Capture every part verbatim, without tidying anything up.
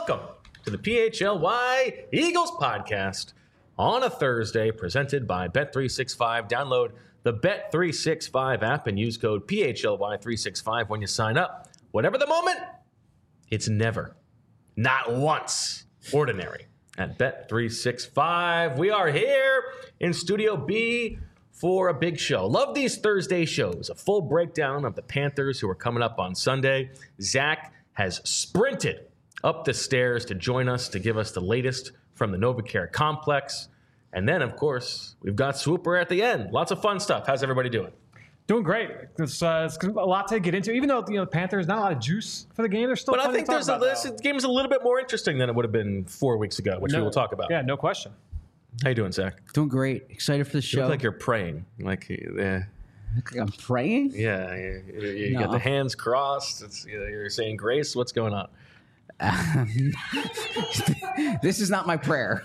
welcome to the P H L Y Eagles podcast on a Thursday, presented by Bet three sixty-five. Download the Bet three sixty-five app and use code P H L Y three sixty-five when you sign up. Whatever the moment, it's never, not once, ordinary at Bet three sixty-five. We are here in Studio B for a big show. Love these Thursday shows. A full breakdown of the Panthers who are coming up on Sunday. Zach has sprinted up the stairs to join us to give us the latest from the NovaCare complex. And then, of course, we've got Swooper at the end. Lots of fun stuff. How's everybody doing? Doing great. It's, uh, it's a lot to get into. Even though you know the Panthers, not a lot of juice for the game. There's still. But I think to there's a, about, this game is a little bit more interesting than it would have been four weeks ago, which no, we will talk about. Yeah, no question. How you doing, Zach? Doing great. Excited for the show. You look like you're praying. Like, yeah. I'm praying? Yeah. You, you, you No. got the hands crossed. It's, you know, you're saying grace. What's going on? Um, this is not my prayer.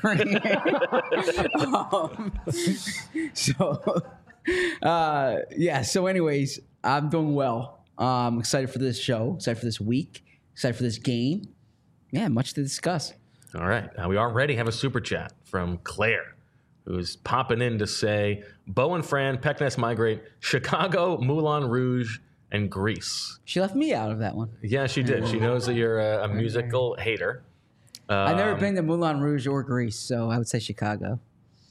um, so, uh, yeah. So, anyways, I'm doing well. I'm excited for this show. Excited for this week. Excited for this game. Yeah, much to discuss. All right. Now, we already have a super chat from Claire, who's popping in to say, Bo and Fran, Peckness migrate, Chicago, Moulin Rouge, and Greece. She left me out of that one. Yeah, she did. She knows that you're a, a musical hater. Um, I've never been to Moulin Rouge or Greece, so I would say Chicago.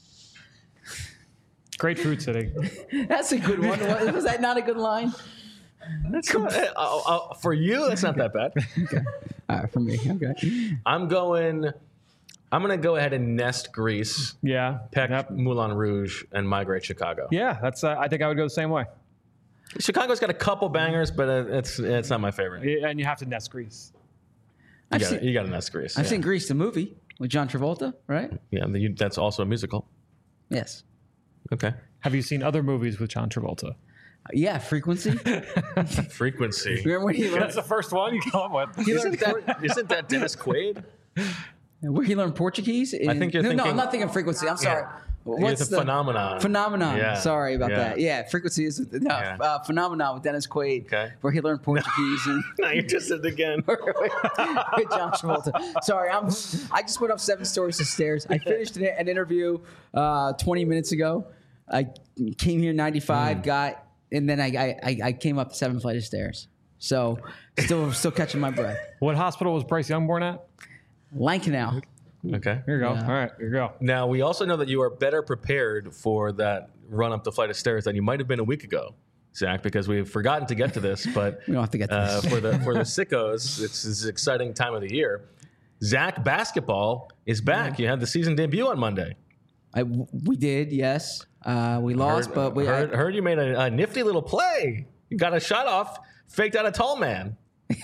Great food city. That's a good one. Was was that not a good line? That's not, uh, uh, for you, that's not that bad. Okay. All right, for me. Okay. I'm going. I'm going to go ahead and nest Greece, Yeah. Peck, Yep. Moulin Rouge, and migrate Chicago. Yeah, that's. Uh, I think I would go the same way. Chicago's got a couple bangers, but uh, it's it's not my favorite. You Yeah, and you have to nest Greece. I've got seen, you got to nest Greece. I've yeah. seen Grease, the movie with John Travolta, right? Yeah, you, that's also a musical. Yes. Okay. Have you seen other movies with John Travolta? Yeah, Frequency. Frequency. Remember when he That's learned, the first one you come up with. Isn't that, isn't that Dennis Quaid? where he learned Portuguese? In, I think you're no, thinking- No, I'm not thinking Frequency. I'm sorry. It's a the phenomenon. Phenomenon. Yeah. Sorry about Yeah. that. Yeah, Frequency is no Yeah. uh, Phenomenon with Dennis Quaid, Okay. where he learned Portuguese and No, you just did it again. with John Travolta. Sorry, I'm. I just went up seven stories of stairs. I finished an, an interview uh, twenty minutes ago. I came here ninety-five, Mm. got, and then I, I I came up seven flight of stairs. So still still catching my breath. What hospital was Bryce Young born at? Lankenau. Okay. Here you go. Yeah. All right, here you go. Now, we also know that you are better prepared for that run up the flight of stairs than you might have been a week ago, Zach, because we've forgotten to get to this. But We don't have to get to uh, this. for the for the sickos, it's this exciting time of the year. Zach basketball is back. You had the season debut on Monday. I, we did, yes. Uh, we lost, heard, but we. heard, I, heard you made a, a nifty little play. You got a shot off, faked out a tall man.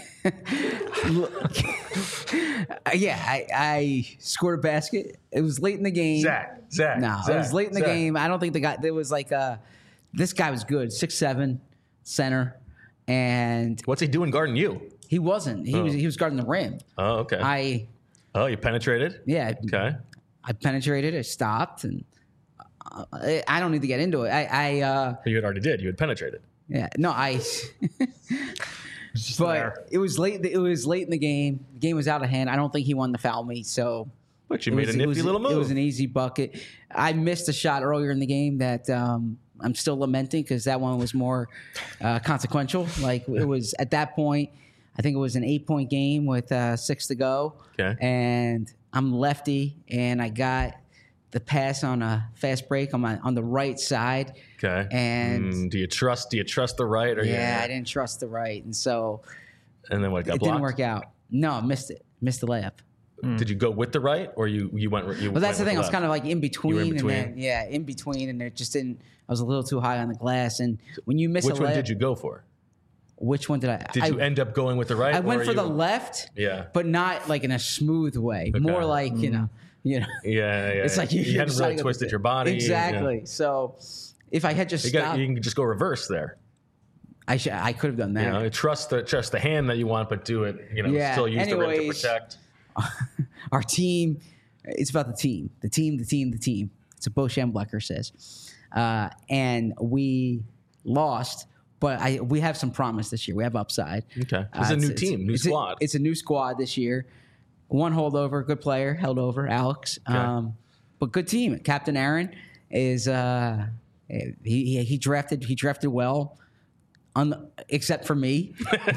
yeah, I, I scored a basket. It was late in the game. Zach, Zach. No, Zach, it was late in the Zach. game. I don't think the guy. There was like uh this guy was good, six seven, center, and What's he doing guarding you? he wasn't. He was he was guarding the rim. Oh, okay. I oh, you penetrated? yeah. Okay. I penetrated. I stopped, and uh, I, I don't need to get into it. I I uh You had already did. You had penetrated. yeah no I. Just But there. it was late. It was late in the game. The game was out of hand. I don't think he wanted to foul me. So But you it made was- a it nifty was- little move. It was an easy bucket. I missed a shot earlier in the game that um, I'm still lamenting because that one was more uh, consequential. Like it was at that point, I think it was an eight point game with uh, six to go. Okay. And I'm lefty, and I got the pass on a fast break on my on the right side. Okay. And Mm, do you trust? Do you trust the right? Or yeah, you, I didn't trust the right, and so And then what? Got it blocked. didn't work out. No, I missed it. Missed the layup. Did you go with the right, or you you went? You Well, that's the thing. I was kind of like in between, between. and then yeah, in between, and it just didn't. I was a little too high on the glass, and when you miss Which a one layup, did you go for? Which one did I? Did I, you end up going with the right? I or went for you- the left, Yeah. but not like in a smooth way. Okay. More like you know, you know. Yeah, yeah. It's like you, you you're hadn't deciding really to- twisted your body. Exactly. So if I had just You, got, stopped, you can just go reverse there. I should. I could have done that. You know, trust the trust the hand that you want, but do it. You know, Yeah, still use the rim to anyways. protect. Our team, it's about the team, the team, the team, the team. It's what Bo Schemblecker says. Uh, and we lost, but I we have some promise this year. We have upside. Okay, Uh, it's a new it's- team, new it's squad. it's a new squad this year. one holdover, good player, held over, Alex. Okay. Um, but good team. Captain Aaron is uh, he, he he drafted he drafted well, on except for me.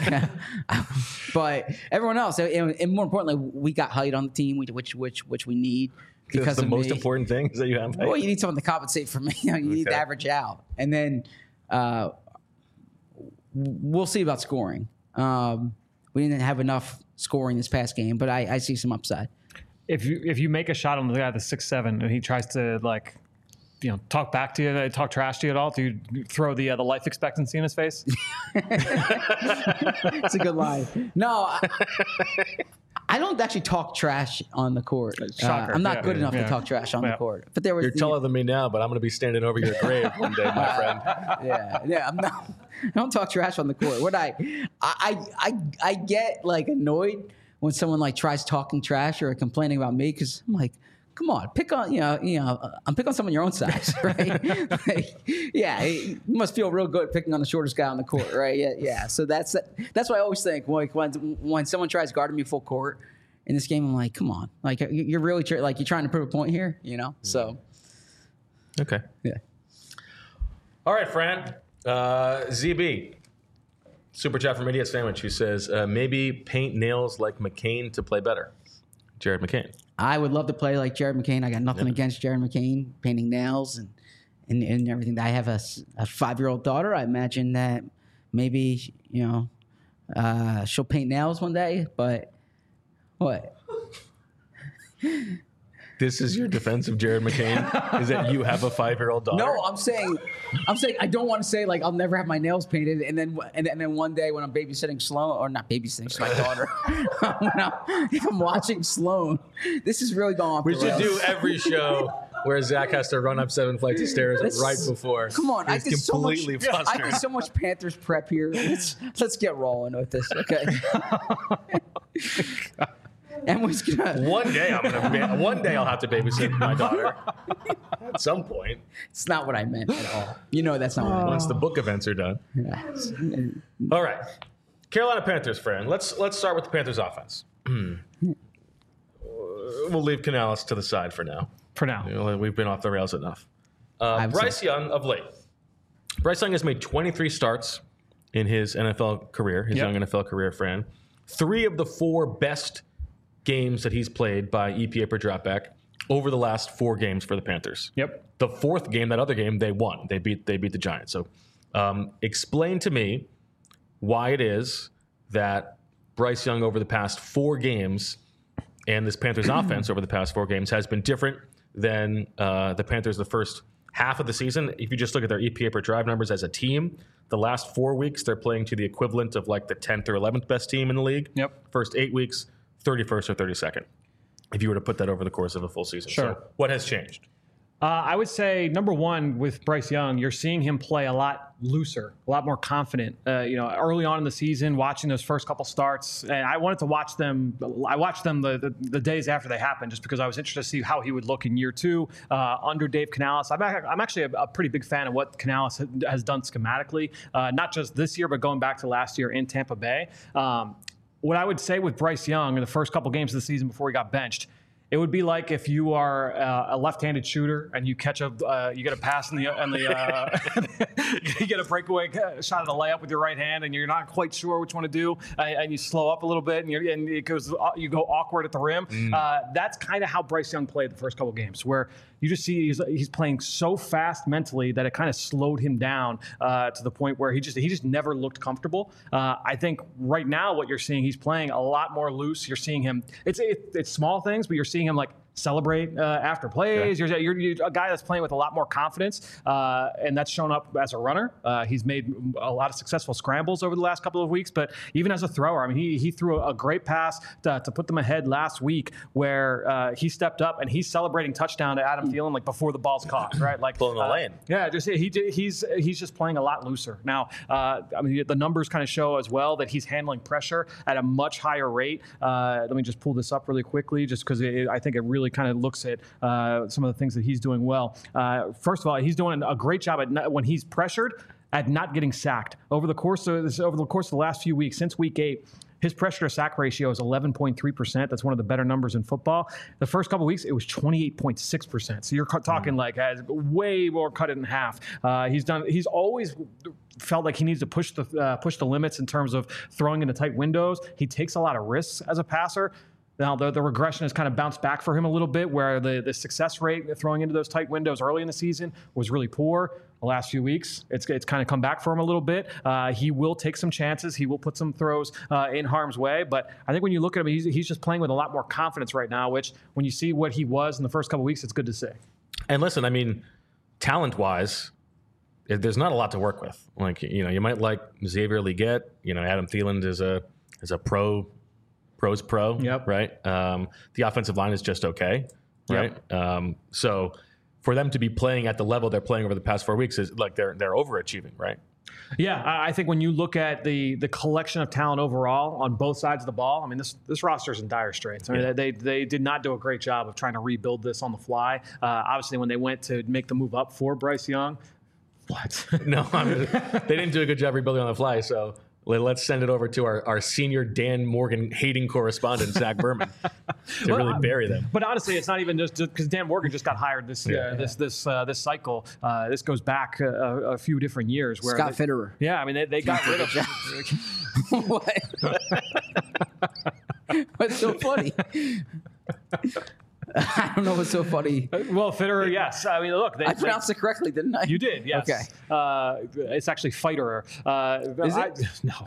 But everyone else, and, and more importantly, we got height on the team, which which which we need. Because That's the of most me. important thing is that you have height. Well, you need someone to compensate for me. You need to Okay. average out, and then uh, we'll see about scoring. Um, we didn't have enough scoring this past game, but I, I see some upside. If you if you make a shot on the guy that's six seven and he tries to like, you know, talk back to you, talk trash to you at all, do you throw the uh, the life expectancy in his face? It's a good line. No, I, I don't actually talk trash on the court. Uh, Shocker. I'm not Yeah, good yeah, enough yeah. to talk trash on Yeah. the court. But there was You're the- taller than me now, but I'm going to be standing over your grave one day, my friend. yeah, yeah. I'm not. I don't talk trash on the court. What I, I, I, I get like annoyed when someone like tries talking trash or complaining about me because I'm like, come on, pick on you know, you know, I'm pick on someone your own size, right? Like, yeah, you must feel real good picking on the shortest guy on the court, right? Yeah, yeah. So that's that's what I always think. Like when when someone tries guarding me full court in this game, I'm like, come on, like you're really tr- like you're trying to prove a point here, you know? So Okay. yeah. All right, Fran. Uh, Z B. Super chat from Idiot Sandwich who says, uh, maybe paint nails like McCain to play better. Jared McCain. I would love to play like Jared McCain. I got nothing Yeah. against Jared McCain painting nails and and, and everything. I have a, s- a five-year-old daughter. I imagine that maybe, you know, uh, she'll paint nails one day, but what? This is your defense of Jared McCain? Is that you have a five-year-old daughter? No, I'm saying, I'm saying I don't want to say like I'll never have my nails painted, and then and, and then one day when I'm babysitting Sloan, or not babysitting, she's my daughter. when I'm, if I'm watching Sloan, this is really going off. We the should rails. do every show where Zach has to run up seven flights of stairs This- right before. Come on, I He's did so much. completely I flustered. did so much Panthers prep here. Let's let's get rolling with this, okay? Emily's gonna. One day I'm gonna. Ba- one day I'll have to babysit my daughter. At some point, It's not what I meant at all. You know that's not what I meant. once the book events are done. All right, Carolina Panthers, friend. Let's let's start with the Panthers offense. We'll leave Canales to the side for now. For now. You know, we've been off the rails enough. Uh, I would Bryce Young of late. Bryce Young has made twenty-three starts in his N F L career, his Yep. young N F L career, friend. Three of the four best games that he's played by E P A per dropback over the last four games for the Panthers. Yep. The fourth game, that other game, they won. They beat they beat the Giants. So um, explain to me why it is that Bryce Young over the past four games and this Panthers offense over the past four games has been different than uh, the Panthers the first half of the season. If you just look at their E P A per drive numbers as a team, the last four weeks they're playing to the equivalent of like the tenth or eleventh best team in the league. Yep. First eight weeks, thirty-first or thirty-second. If you were to put that over the course of a full season. Sure. So what has changed? Uh, I would say number one with Bryce Young, you're seeing him play a lot looser, a lot more confident. Uh, you know, early on in the season, watching those first couple starts, and I wanted to watch them. I watched them the, the, the days after they happened, just because I was interested to see how he would look in year two uh, under Dave Canales. I'm, ac- I'm actually a, a pretty big fan of what Canales ha- has done schematically, uh, not just this year, but going back to last year in Tampa Bay. Um, what I would say with Bryce Young in the first couple games of the season before he got benched, it would be like if you are uh, a left-handed shooter and you catch a, uh, you get a pass in the, in the uh, you get a breakaway shot at a layup with your right hand, and you're not quite sure which one to do, uh, and you slow up a little bit, and, you're, and it goes, you go awkward at the rim. Mm. Uh, that's kind of how Bryce Young played the first couple games, where you just see he's, he's playing so fast mentally that it kind of slowed him down uh, to the point where he just he just never looked comfortable. Uh, I think right now what you're seeing, he's playing a lot more loose. You're seeing him. It's it, it's small things, but you're seeing him like celebrate uh, after plays. Yeah. You're, you're, you're a guy that's playing with a lot more confidence, uh, and that's shown up as a runner. Uh, he's made a lot of successful scrambles over the last couple of weeks, but even as a thrower, I mean, he he threw a great pass to, to put them ahead last week, where uh, he stepped up and he's celebrating touchdown to Adam Thielen like before the ball's caught, right? Like pulling the uh, lane. Yeah, just he he's he's just playing a lot looser now. Uh, I mean, the numbers kind of show as well that he's handling pressure at a much higher rate. Uh, let me just pull this up really quickly, just because I think it really kind of looks at uh, some of the things that he's doing well. Uh, first of all, he's doing a great job at not, when he's pressured at not getting sacked over the course of this, over the course of the last few weeks since week eight. His pressure to sack ratio is eleven point three percent. That's one of the better numbers in football. The first couple of weeks, it was twenty-eight point six percent. So you're talking mm. like has way more cut it in half. Uh, he's done. He's always felt like he needs to push the uh, push the limits in terms of throwing into tight windows. He takes a lot of risks as a passer. Now, the, the regression has kind of bounced back for him a little bit, where the, the success rate throwing into those tight windows early in the season was really poor. The last few weeks, it's it's kind of come back for him a little bit. Uh, he will take some chances. He will put some throws uh, in harm's way. But I think when you look at him, he's, he's just playing with a lot more confidence right now, which when you see what he was in the first couple of weeks, it's good to see. And listen, I mean, talent-wise, there's not a lot to work with. Like, you know, you might like Xavier Legette. You know, Adam Thielen is a is a pro Pro's pro, yep. right? Um, the offensive line is just okay, right? Yep. Um, so for them to be playing at the level they're playing over the past four weeks is like they're they're overachieving, right? Yeah, I think when you look at the the collection of talent overall on both sides of the ball, I mean, this this roster's in dire straits. I mean, yeah. they they did not do a great job of trying to rebuild this on the fly. Uh, obviously, when they went to make the move up for Bryce Young, what? no, I mean, they didn't do a good job rebuilding on the fly, so. Let's send it over to our, our senior Dan Morgan hating correspondent, Zach Berman, to well, really bury them. But honestly, it's not even just because Dan Morgan just got hired this yeah, uh, yeah. this this uh, this cycle. Uh, this goes back a, a few different years. Where Scott they, Fitterer. Yeah, I mean, they, they got rid of what? What's so funny? I don't know what's so funny. Well, Fitterer, yes. I mean, look. They, I pronounced they, it correctly, didn't I? You did, yes. Okay. Uh, it's actually Fiterer. Uh, Is I, it? No.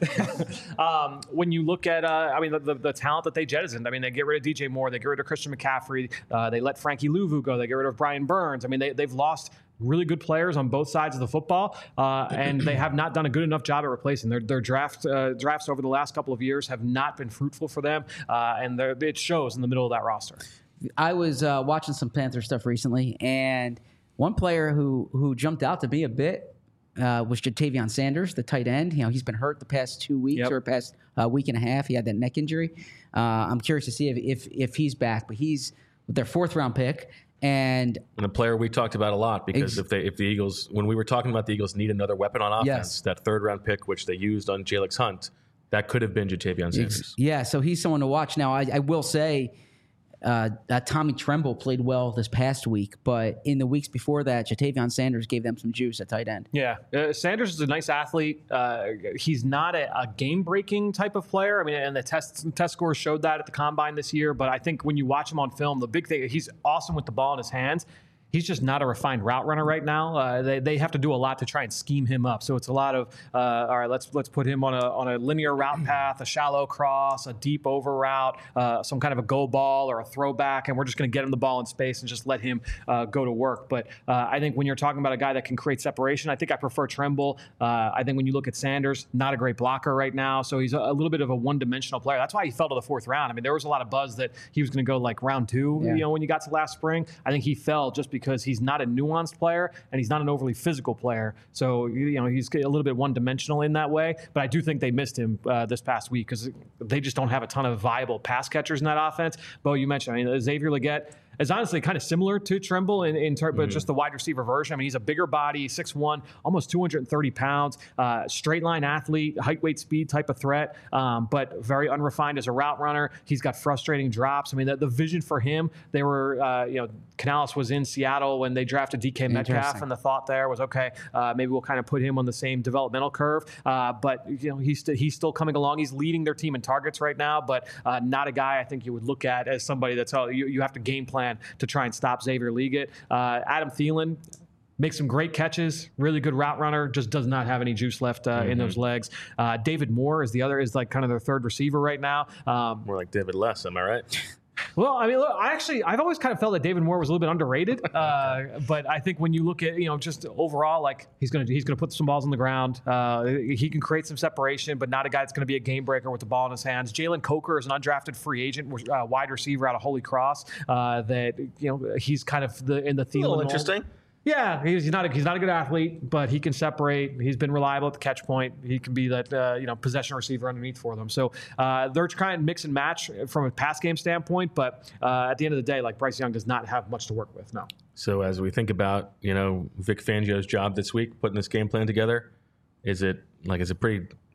Oh. um, when you look at, uh, I mean, the, the, the talent that they jettisoned, I mean, they get rid of D J Moore, they get rid of Christian McCaffrey, uh, they let Frankie Louvu go, they get rid of Brian Burns. I mean, they, they've lost really good players on both sides of the football, uh, and they have not done a good enough job at replacing. Their, their draft uh, drafts over the last couple of years have not been fruitful for them, uh, and it shows in the middle of that roster. I was uh, watching some Panther stuff recently, and one player who who jumped out to me a bit uh, was Jatavion Sanders, the tight end. You know, he's been hurt the past two weeks yep. or past uh, week and a half. He had that neck injury. Uh, I'm curious to see if, if if he's back, but he's their fourth round pick. And, and a player we talked about a lot because ex- if they if the Eagles, when we were talking about the Eagles need another weapon on offense, yes. that third round pick, which they used on Jalex Hunt, that could have been Jatavion Sanders. Yeah, so he's someone to watch. Now, I, I will say, Uh, uh, Tommy Tremble played well this past week, but in the weeks before that, Jatavion Sanders gave them some juice at tight end. Yeah, uh, Sanders is a nice athlete. Uh, he's not a, a game-breaking type of player. I mean, and the test test scores showed that at the combine this year. But I think when you watch him on film, the big thing, he's awesome with the ball in his hands. He's just not a refined route runner right now. Uh, they, they have to do a lot to try and scheme him up. So it's a lot of uh, all right. Let's let's put him on a on a linear route path, a shallow cross, a deep over route, uh, some kind of a go ball or a throwback, and we're just going to get him the ball in space and just let him uh, go to work. But uh, I think when you're talking about a guy that can create separation, I think I prefer Tremble. Uh, I think when you look at Sanders, not a great blocker right now, so he's a, a little bit of a one-dimensional player. That's why he fell to the fourth round. I mean, there was a lot of buzz that he was going to go like round two. Yeah. You know, when you got to last spring, I think he fell just because because he's not a nuanced player and he's not an overly physical player. So, you know, he's a little bit one-dimensional in that way. But I do think they missed him uh, this past week because they just don't have a ton of viable pass catchers in that offense. Bo, you mentioned, I mean, Xavier Legette is honestly kind of similar to Tremble in, in terms, mm. but just the wide receiver version. I mean, he's a bigger body, six one, almost two hundred thirty pounds, uh, straight line athlete, height, weight, speed type of threat, um, but very unrefined as a route runner. He's got frustrating drops. I mean, the, the vision for him, they were, uh, you know, Canales was in Seattle when they drafted D K Metcalf, and the thought there was, okay, uh, maybe we'll kind of put him on the same developmental curve. Uh, but, you know, he's, st- he's still coming along. He's leading their team in targets right now, but uh, not a guy I think you would look at as somebody that's, oh, you, you have to game plan to try and stop Xavier Legette. Uh, Adam Thielen makes some great catches, really good route runner, just does not have any juice left uh, mm-hmm. in those legs. Uh, David Moore is the other, is like kind of their third receiver right now. Um, More like David Less, am I right? Well, I mean, look, I actually, I've always kind of felt that David Moore was a little bit underrated. Uh, but I think when you look at, you know, just overall, like he's going to, he's going to put some balls on the ground. Uh, he can create some separation, but not a guy that's going to be a game breaker with the ball in his hands. Jalen Coker is an undrafted free agent, uh, wide receiver out of Holy Cross. Uh, that, you know, he's kind of the in the Thielen. A little interesting. Yeah, he's not a, he's not a good athlete, but he can separate. He's been reliable at the catch point. He can be that uh, you know possession receiver underneath for them. So uh, they're trying to mix and match from a pass game standpoint. But uh, at the end of the day, like Bryce Young does not have much to work with. No. So as we think about you know Vic Fangio's job this week, putting this game plan together, is it like is it pretty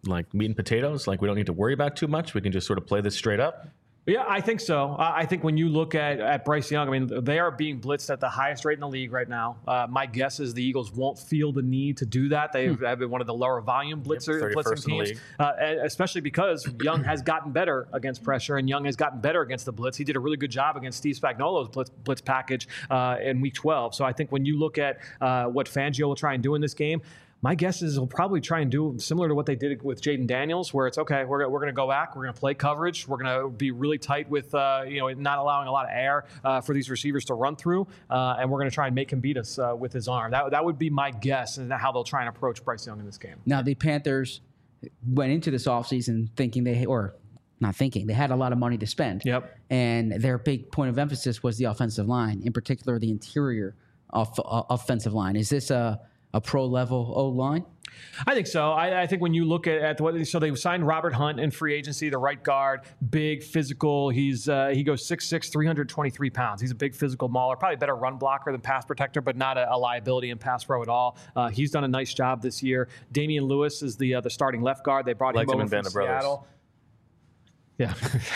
like meat and potatoes? Like we don't need to worry about too much. We can just sort of play this straight up. Yeah, I think so. Uh, I think when you look at, at Bryce Young, I mean, they are being blitzed at the highest rate in the league right now. Uh, my guess is the Eagles won't feel the need to do that. They hmm. have been one of the lower volume blitzer, yep, blitzing teams, uh, especially because Young has gotten better against pressure and Young has gotten better against the blitz. He did a really good job against Steve Spagnuolo's blitz, blitz package uh, in week twelve. So I think when you look at uh, what Fangio will try and do in this game, my guess is he'll probably try and do similar to what they did with Jaden Daniels, where it's, okay, we're, we're going to go back, we're going to play coverage, we're going to be really tight with, uh, you know, not allowing a lot of air uh, for these receivers to run through, uh, and we're going to try and make him beat us uh, with his arm. That, that would be my guess and how they'll try and approach Bryce Young in this game. Now, the Panthers went into this offseason thinking they, or not thinking, they had a lot of money to spend. Yep. And their big point of emphasis was the offensive line, in particular the interior off, uh, offensive line. Is this a, a pro-level O-line? I think so. I, I think when you look at, at what, so they signed Robert Hunt in free agency, the right guard, big, physical. He's uh, he goes six six, three hundred twenty-three pounds. He's a big physical mauler, probably a better run blocker than pass protector, but not a, a liability in pass pro at all. Uh, he's done a nice job this year. Damian Lewis is the uh, the starting left guard. They brought Liked him him over in from Band of Seattle. Yeah.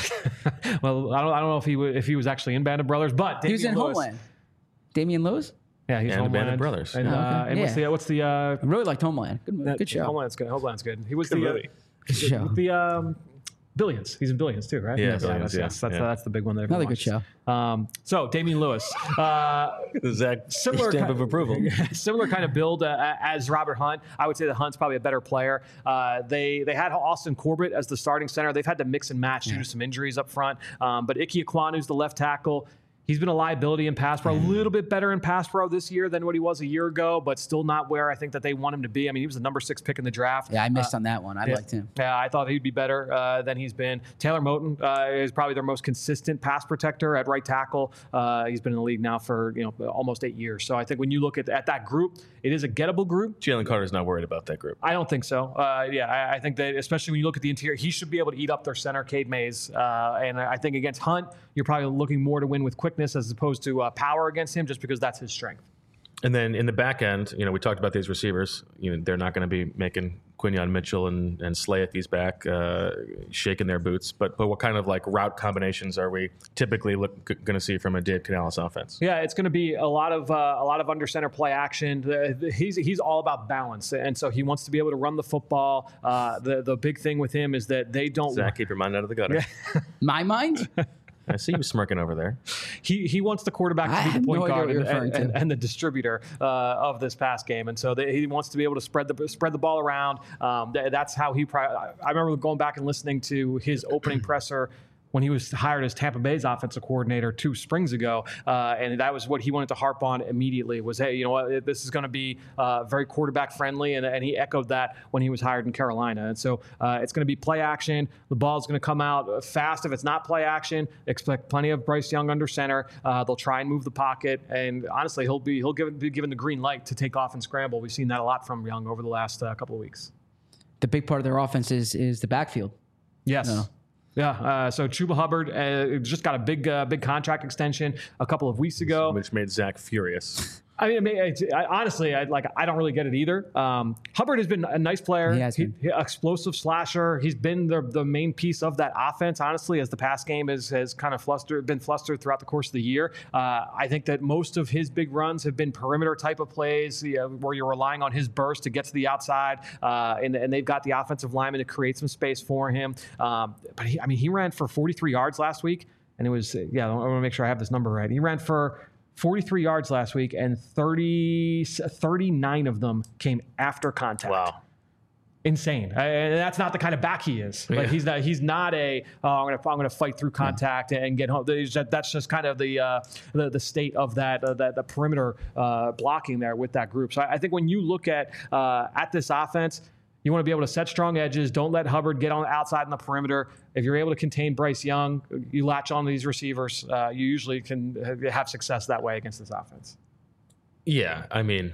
Well, I don't I don't know if he w- if he was actually in Band of Brothers, but Damian he was in Lewis, Homeland. Damian Lewis? Yeah, he's and Homeland. the Band of Brothers. And, Oh, okay. uh, and Yeah. what's the what's the uh, I really liked Homeland. Good, movie. Good show. Homeland's good. Homeland's good. He was Good the uh, movie. Good show. the um, Billions. He's in Billions too, right? Yeah, Yes, Billions, that's, yeah, yes, that's, yeah. that's the big one that Another everyone good watches. Um, so Damian Lewis, uh, Zach, similar stamp kind, of approval. similar kind of build uh, as Robert Hunt. I would say that Hunt's probably a better player. Uh, they they had Austin Corbett as the starting center. They've had to mix and match due to some injuries up front. Um, but Ike Ekwonu's the left tackle. He's been a liability in pass pro, a little bit better in pass pro this year than what he was a year ago, but still not where I think that they want him to be. I mean, he was the number six pick in the draft. Yeah, I missed uh, on that one. I yeah, liked him. Yeah, I thought he'd be better uh, than he's been. Taylor Moton uh, is probably their most consistent pass protector at right tackle. Uh, he's been in the league now for you know almost eight years. So I think when you look at, at that group, it is a gettable group. Jalen Carter's not worried about that group. I don't think so. Uh, yeah, I, I think that especially when you look at the interior, he should be able to eat up their center, Cade Mays. Uh, and I think against Hunt, you're probably looking more to win with quickness as opposed to uh, power against him, just because that's his strength. And then in the back end, you know, we talked about these receivers. You know, they're not going to be making Quinyon Mitchell and, and Slay if he's back, uh, shaking their boots. But but what kind of like route combinations are we typically look, g- going to see from a Dave Canales offense? Yeah, it's going to be a lot of uh, a lot of under center play action. The, the, he's he's all about balance, and so he wants to be able to run the football. Uh, the the big thing with him is that they don't. Zach, keep your mind out of the gutter. My mind? I see you smirking over there. He he wants the quarterback I to be have the point no idea guard what you're and, referring and, to. and the distributor uh, of this pass game, and so they, he wants to be able to spread the spread the ball around. Um, th- that's how he. Pri- I remember going back and listening to his opening presser when he was hired as Tampa Bay's offensive coordinator two springs ago, uh, and that was what he wanted to harp on immediately was, hey, you know what, this is going to be uh, very quarterback friendly, and, and he echoed that when he was hired in Carolina. And so uh, it's going to be play action. The ball's going to come out fast. If it's not play action, expect plenty of Bryce Young under center. Uh, they'll try and move the pocket, and honestly, he'll be he'll give, be given the green light to take off and scramble. We've seen that a lot from Young over the last uh, couple of weeks. The big part of their offense is, is the backfield. Yes. No. Yeah, uh, so Chuba Hubbard uh, just got a big, uh, big contract extension a couple of weeks ago. Which made Zach furious. I mean, I mean it's, I, honestly, I like. I don't really get it either. Um, Hubbard has been a nice player. He has been. He, he, explosive slasher. He's been the the main piece of that offense. Honestly, as the pass game has has kind of flustered, been flustered throughout the course of the year. Uh, I think that most of his big runs have been perimeter type of plays, you know, where you're relying on his burst to get to the outside, uh, and and they've got the offensive lineman to create some space for him. Um, but he, I mean, he ran for forty-three yards last week, and it was yeah. I want to make sure I have this number right. He ran for forty-three yards last week, and thirty, thirty-nine of them came after contact. Wow. Insane. Uh, And that's not the kind of back he is. Like Yeah. he's not, he's not a, oh, I'm going to, I'm going to fight through contact and get home. There's just- That's just kind of the, uh, the, the state of that, uh, that the perimeter uh, blocking there with that group. So I, I think when you look at, uh, at this offense, you want to be able to set strong edges. Don't let Hubbard get on outside in the perimeter. If you're able to contain Bryce Young, you latch on to these receivers. Uh, you usually can have success that way against this offense. Yeah, I mean,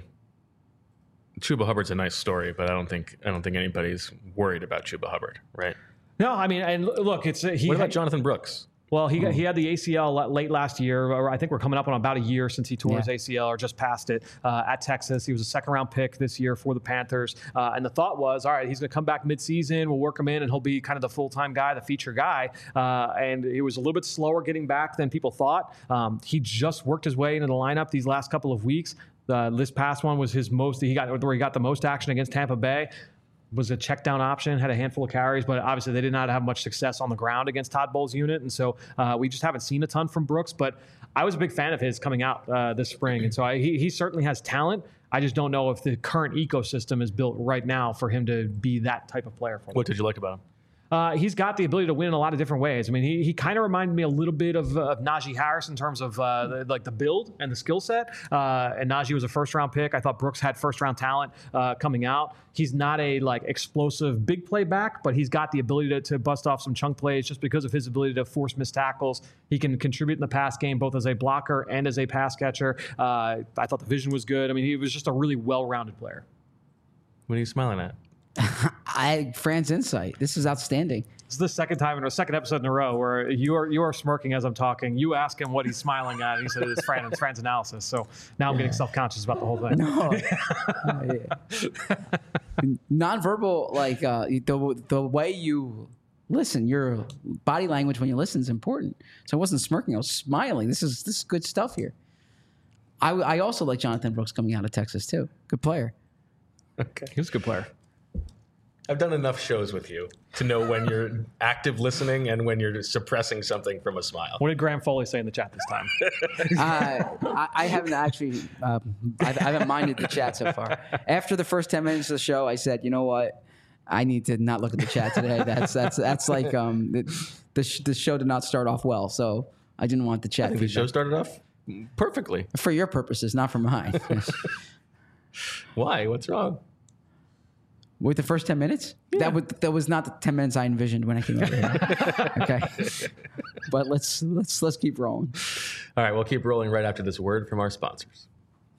Chuba Hubbard's a nice story, but I don't think I don't think anybody's worried about Chuba Hubbard, right? No, I mean, and look, it's he. What about Jonathan Brooks? Well, he got, he had the A C L late last year, or I think we're coming up on about a year since he tore yeah. his A C L or just past it uh, at Texas. He was a second round pick this year for the Panthers. Uh, and the thought was, all right, he's going to come back midseason. We'll work him in and he'll be kind of the full-time guy, the feature guy. Uh, and he was a little bit slower getting back than people thought. Um, he just worked his way into the lineup these last couple of weeks. Uh, this past one was his most, he got where he got the most action against Tampa Bay. Was a check down option, had a handful of carries, but obviously they did not have much success on the ground against Todd Bowles' unit. And so uh, we just haven't seen a ton from Brooks, but I was a big fan of his coming out uh, this spring. And so I, he, he certainly has talent. I just don't know if the current ecosystem is built right now for him to be that type of player for them. What did you like about him? Uh, he's got the ability to win in a lot of different ways. I mean, he he kind of reminded me a little bit of, uh, of Najee Harris in terms of uh, the, like the build and the skill set. Uh, and Najee was a first round pick. I thought Brooks had first round talent uh, coming out. He's not a like explosive big play back, but he's got the ability to, to bust off some chunk plays just because of his ability to force missed tackles. He can contribute in the pass game both as a blocker and as a pass catcher. Uh, I thought the vision was good. I mean, he was just a really well-rounded player. What are you smiling at? I Fran's insight. This is outstanding. This is the second time in a second episode in a row where you are you are smirking as I'm talking. You ask him what he's smiling at, and he said it's Fran, it's Fran's analysis. So now I'm getting self-conscious about the whole thing. No. uh, nonverbal, like uh, the the way you listen, your body language when you listen is important. So I wasn't smirking; I was smiling. This is this is good stuff here. I I also like Jonathan Brooks coming out of Texas too. Good player. Okay, he was a good player. I've done enough shows with you to know when you're active listening and when you're suppressing something from a smile. What did Graham Foley say in the chat this time? uh, I, I haven't actually, um, I, I haven't minded the chat so far. After the first ten minutes of the show, I said, you know what? I need to not look at the chat today. That's that's that's like um, the the, sh- the show did not start off well, so I didn't want the chat. I think the show started off perfectly for your purposes, not for mine. Why? What's wrong? With the first ten minutes? Yeah. That would that was not the ten minutes I envisioned when I came over here. Okay. But let's let's let's keep rolling. All right, we'll keep rolling right after this word from our sponsors.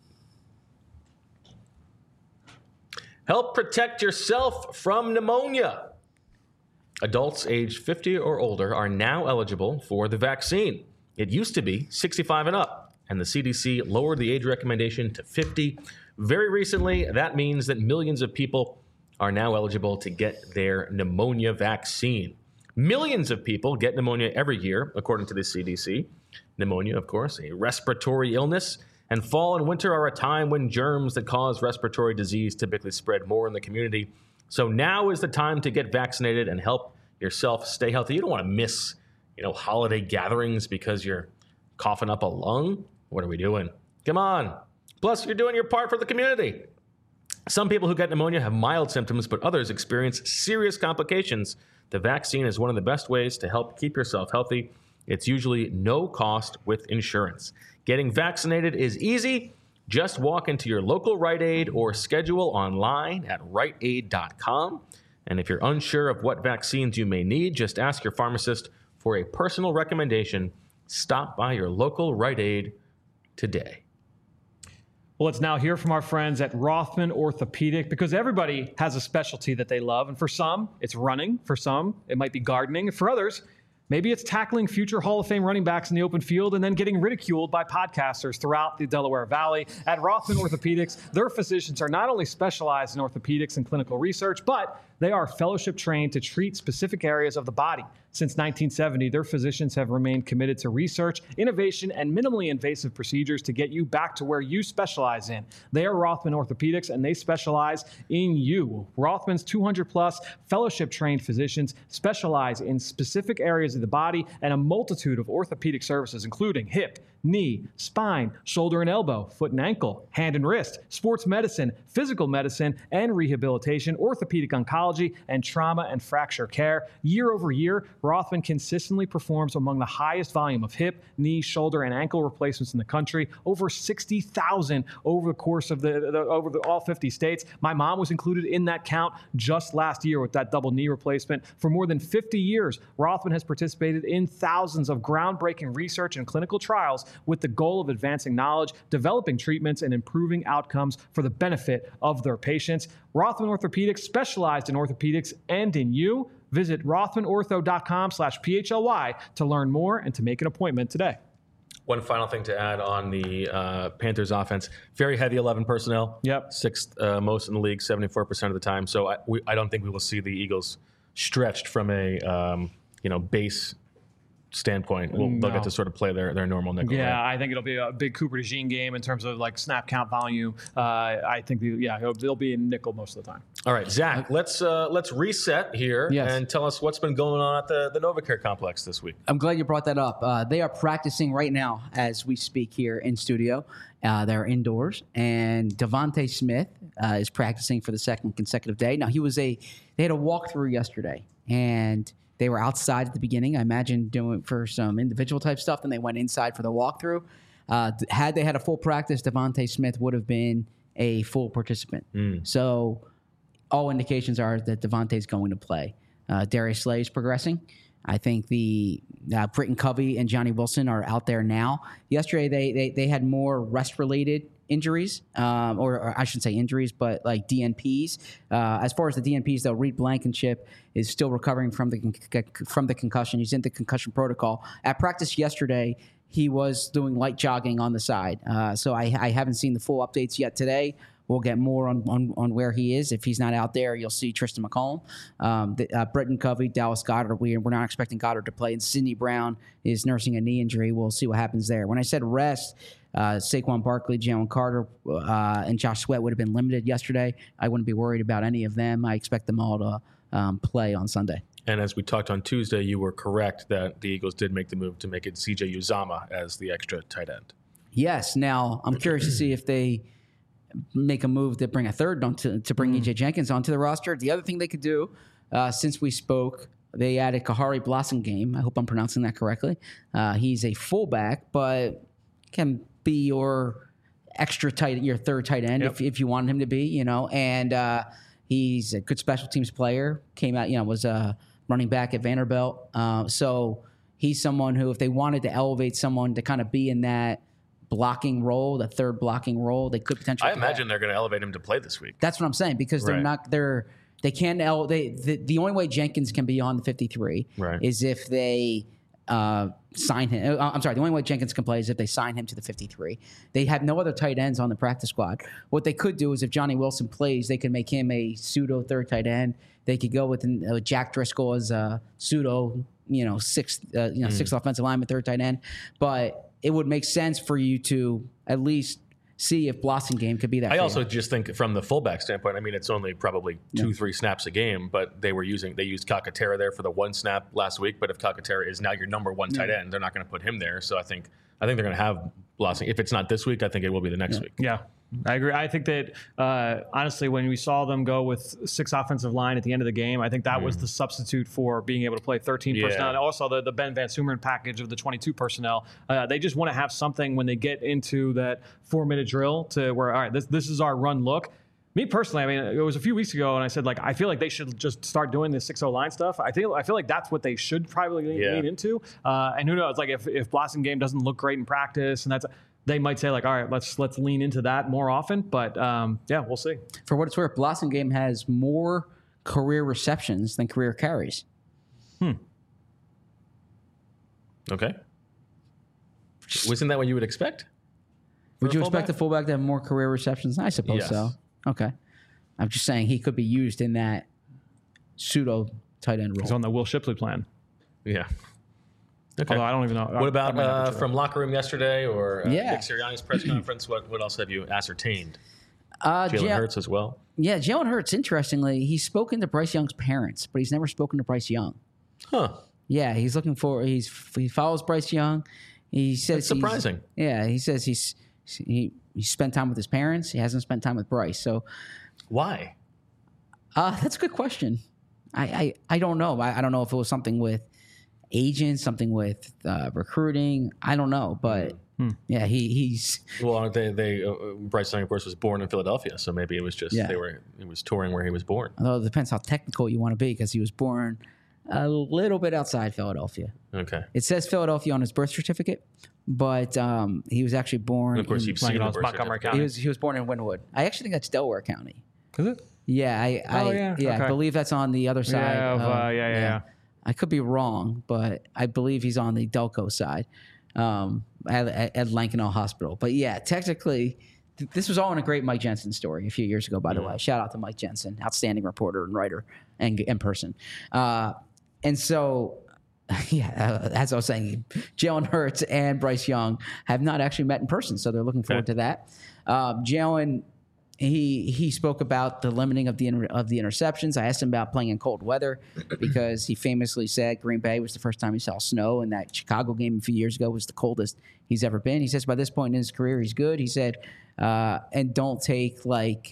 Help protect yourself from pneumonia. Adults aged fifty or older are now eligible for the vaccine. It used to be sixty-five and up, and the C D C lowered the age recommendation to fifty. Very recently, that means that millions of people are now eligible to get their pneumonia vaccine. Millions of people get pneumonia every year, according to the C D C. Pneumonia, of course, a respiratory illness, and fall and winter are a time when germs that cause respiratory disease typically spread more in the community. So now is the time to get vaccinated and help yourself stay healthy. You don't want to miss, you know, holiday gatherings because you're coughing up a lung. What are we doing? Come on. Plus, you're doing your part for the community. Some people who get pneumonia have mild symptoms, but others experience serious complications. The vaccine is one of the best ways to help keep yourself healthy. It's usually no cost with insurance. Getting vaccinated is easy. Just walk into your local Rite Aid or schedule online at rite aid dot com. And if you're unsure of what vaccines you may need, just ask your pharmacist for a personal recommendation. Stop by your local Rite Aid today. Well, let's now hear from our friends at Rothman Orthopedic, because everybody has a specialty that they love. And for some, it's running. For some, it might be gardening. For others, maybe it's tackling future Hall of Fame running backs in the open field and then getting ridiculed by podcasters throughout the Delaware Valley. At Rothman Orthopedics, their physicians are not only specialized in orthopedics and clinical research, but they are fellowship trained to treat specific areas of the body. Since nineteen seventy, their physicians have remained committed to research, innovation, and minimally invasive procedures to get you back to where you specialize in. They are Rothman Orthopedics, and they specialize in you. Rothman's two hundred plus fellowship-trained physicians specialize in specific areas of the body and a multitude of orthopedic services, including hip, knee, spine, shoulder and elbow, foot and ankle, hand and wrist, sports medicine, physical medicine and rehabilitation, orthopedic oncology, and trauma and fracture care. Year over year, Rothman consistently performs among the highest volume of hip, knee, shoulder, and ankle replacements in the country, over sixty thousand over the course of the, the over the, all fifty states. My mom was included in that count just last year with that double knee replacement. For more than fifty years, Rothman has participated in thousands of groundbreaking research and clinical trials with the goal of advancing knowledge, developing treatments, and improving outcomes for the benefit of their patients. Rothman Orthopedics specialized in orthopedics and in you. Visit rothmanortho.com slash PHLY to learn more and to make an appointment today. One final thing to add on the uh, Panthers offense: very heavy eleven personnel. Yep. Sixth uh, most in the league, seventy-four percent of the time. So I, we, I don't think we will see the Eagles stretched from a um, you know base standpoint. We'll, No. They'll get to sort of play their, their normal nickel. Yeah, right? I think it'll be a big Cooper DeJean game in terms of like snap count volume. Uh, I think, the, yeah, it'll, they'll be in nickel most of the time. All right, Zach, let's uh, let's reset here Yes. and tell us what's been going on at the, the NovaCare complex this week. I'm glad you brought that up. Uh, they are practicing right now as we speak here in studio. Uh, they're indoors, and Devontae Smith uh, is practicing for the second consecutive day. Now, he was a they had a walkthrough yesterday, and they were outside at the beginning. I imagine doing for some individual type stuff. Then they went inside for the walkthrough. Uh, had they had a full practice, Devontae Smith would have been a full participant. So all indications are that Devontae's going to play. Uh, Darius Slay is progressing. I think the uh, Britton Covey and Johnny Wilson are out there now. Yesterday, they they, they had more rest-related injuries, um, or, or I shouldn't say injuries, but like D N Ps. Uh, as far as the D N Ps, though, Reed Blankenship is still recovering from the con- from the concussion. He's in the concussion protocol. At practice yesterday, he was doing light jogging on the side. Uh, so I, I haven't seen the full updates yet today. We'll get more on, on, on where he is. If he's not out there, you'll see Tristan McCollum. Um, the, uh, Britton Covey, Dallas Goddard. We, we're not expecting Goddard to play. And Sidney Brown is nursing a knee injury. We'll see what happens there. When I said rest, uh, Saquon Barkley, Jalen Carter, uh, and Josh Sweat would have been limited yesterday. I wouldn't be worried about any of them. I expect them all to um, play on Sunday. And as we talked on Tuesday, you were correct that the Eagles did make the move to make it C J Uzama as the extra tight end. Yes. Now, I'm curious to see if they make a move to bring a third on to, to bring mm. E J Jenkins onto the roster. The other thing they could do, uh, since we spoke, they added Kahari Blossomgame. I hope I'm pronouncing that correctly. Uh, he's a fullback, but can be your extra tight, your third tight end yep. if, if you want him to be, you know. And uh, he's a good special teams player. Came out, you know, was a running back at Vanderbilt. Uh, so he's someone who, if they wanted to elevate someone to kind of be in that blocking role, the third blocking role, they could potentially. I imagine they're going to elevate him to play this week. That's what I'm saying, because they're right. not. They're they can't. El- they the, the only way Jenkins can be on the fifty-three right. is if they uh, sign him. I'm sorry. The only way Jenkins can play is if they sign him to the fifty-three. They have no other tight ends on the practice squad. What they could do is, if Johnny Wilson plays, they could make him a pseudo third tight end. They could go with uh, Jack Driscoll as a pseudo, you know, sixth, uh, you know, mm. sixth offensive lineman, third tight end, but it would make sense for you to at least see if Blossomgame could be that. I favorite. also just think from the fullback standpoint, I mean, it's only probably two, yeah. three snaps a game, but they were using, they used Calcaterra there for the one snap last week. But if Calcaterra is now your number one tight end, they're not going to put him there. So I think, I think they're going to have Blossomgame. If it's not this week, I think it will be the next yeah. week. Yeah. I agree. I think that, uh, honestly, when we saw them go with six offensive line at the end of the game, I think that mm. was the substitute for being able to play thirteen yeah. personnel. And also the, the Ben Van Sumeren package of the twenty-two personnel. Uh, they just want to have something when they get into that four-minute drill to where, all right, this this is our run look. Me personally, I mean, it was a few weeks ago, and I said, like, I feel like they should just start doing the six oh line stuff. I feel I feel like that's what they should probably lean, yeah. lean into. Uh, and who knows, like, if, if Blossomgame doesn't look great in practice, and that's – they might say, like, all right, let's let's lean into that more often. But, um, yeah, we'll see. For what it's worth, Blossomgame has more career receptions than career carries. Hmm. Okay. Wasn't that what you would expect? Would you expect a fullback to have more career receptions? I suppose yes. so. Okay. I'm just saying he could be used in that pseudo tight end role. He's on the Will Shipley plan. Yeah. Okay. Although I don't even know. What about uh, from locker room yesterday or uh, yeah. Nick Sirianni's press conference? What what else have you ascertained? Uh, Jalen J- Hurts as well. Yeah, Jalen Hurts. Interestingly, he's spoken to Bryce Young's parents, but he's never spoken to Bryce Young. Huh. Yeah, he's looking for. He's he follows Bryce Young. He says That's surprising. Yeah, he says he's he he spent time with his parents. He hasn't spent time with Bryce. So why? Uh, that's a good question. I I, I don't know. I, I don't know if it was something with agents, something with uh, recruiting. I don't know, but hmm. yeah, he he's. Well, they they uh, Bryce Young, of course, was born in Philadelphia, so maybe it was just yeah. they were he was touring where he was born. Although it depends how technical you want to be, because he was born a little bit outside Philadelphia. Okay. It says Philadelphia on his birth certificate, but um, he was actually born. And of course, in, you've seen the birth Montgomery County. He was he was born in Wynwood. I actually think that's Delaware County. Is it? Yeah, I, I Oh, yeah, yeah? I Okay. believe that's on the other side. Yeah, of, of- uh, yeah, yeah, yeah. I could be wrong, but I believe he's on the Delco side um, at, at, at Lankenau Hospital. But yeah, technically, th- this was all in a great Mike Jensen story a few years ago, by the way. Shout out to Mike Jensen, outstanding reporter and writer and in person. Uh, and so, yeah, uh, as I was saying, Jalen Hurts and Bryce Young have not actually met in person, so they're looking forward Okay. to that. Uh, Jalen, he he spoke about the limiting of the inter- of the interceptions. I asked him about playing in cold weather because he famously said Green Bay was the first time he saw snow, and that Chicago game a few years ago was the coldest he's ever been. He says by this point in his career, he's good. He said, uh, and don't take like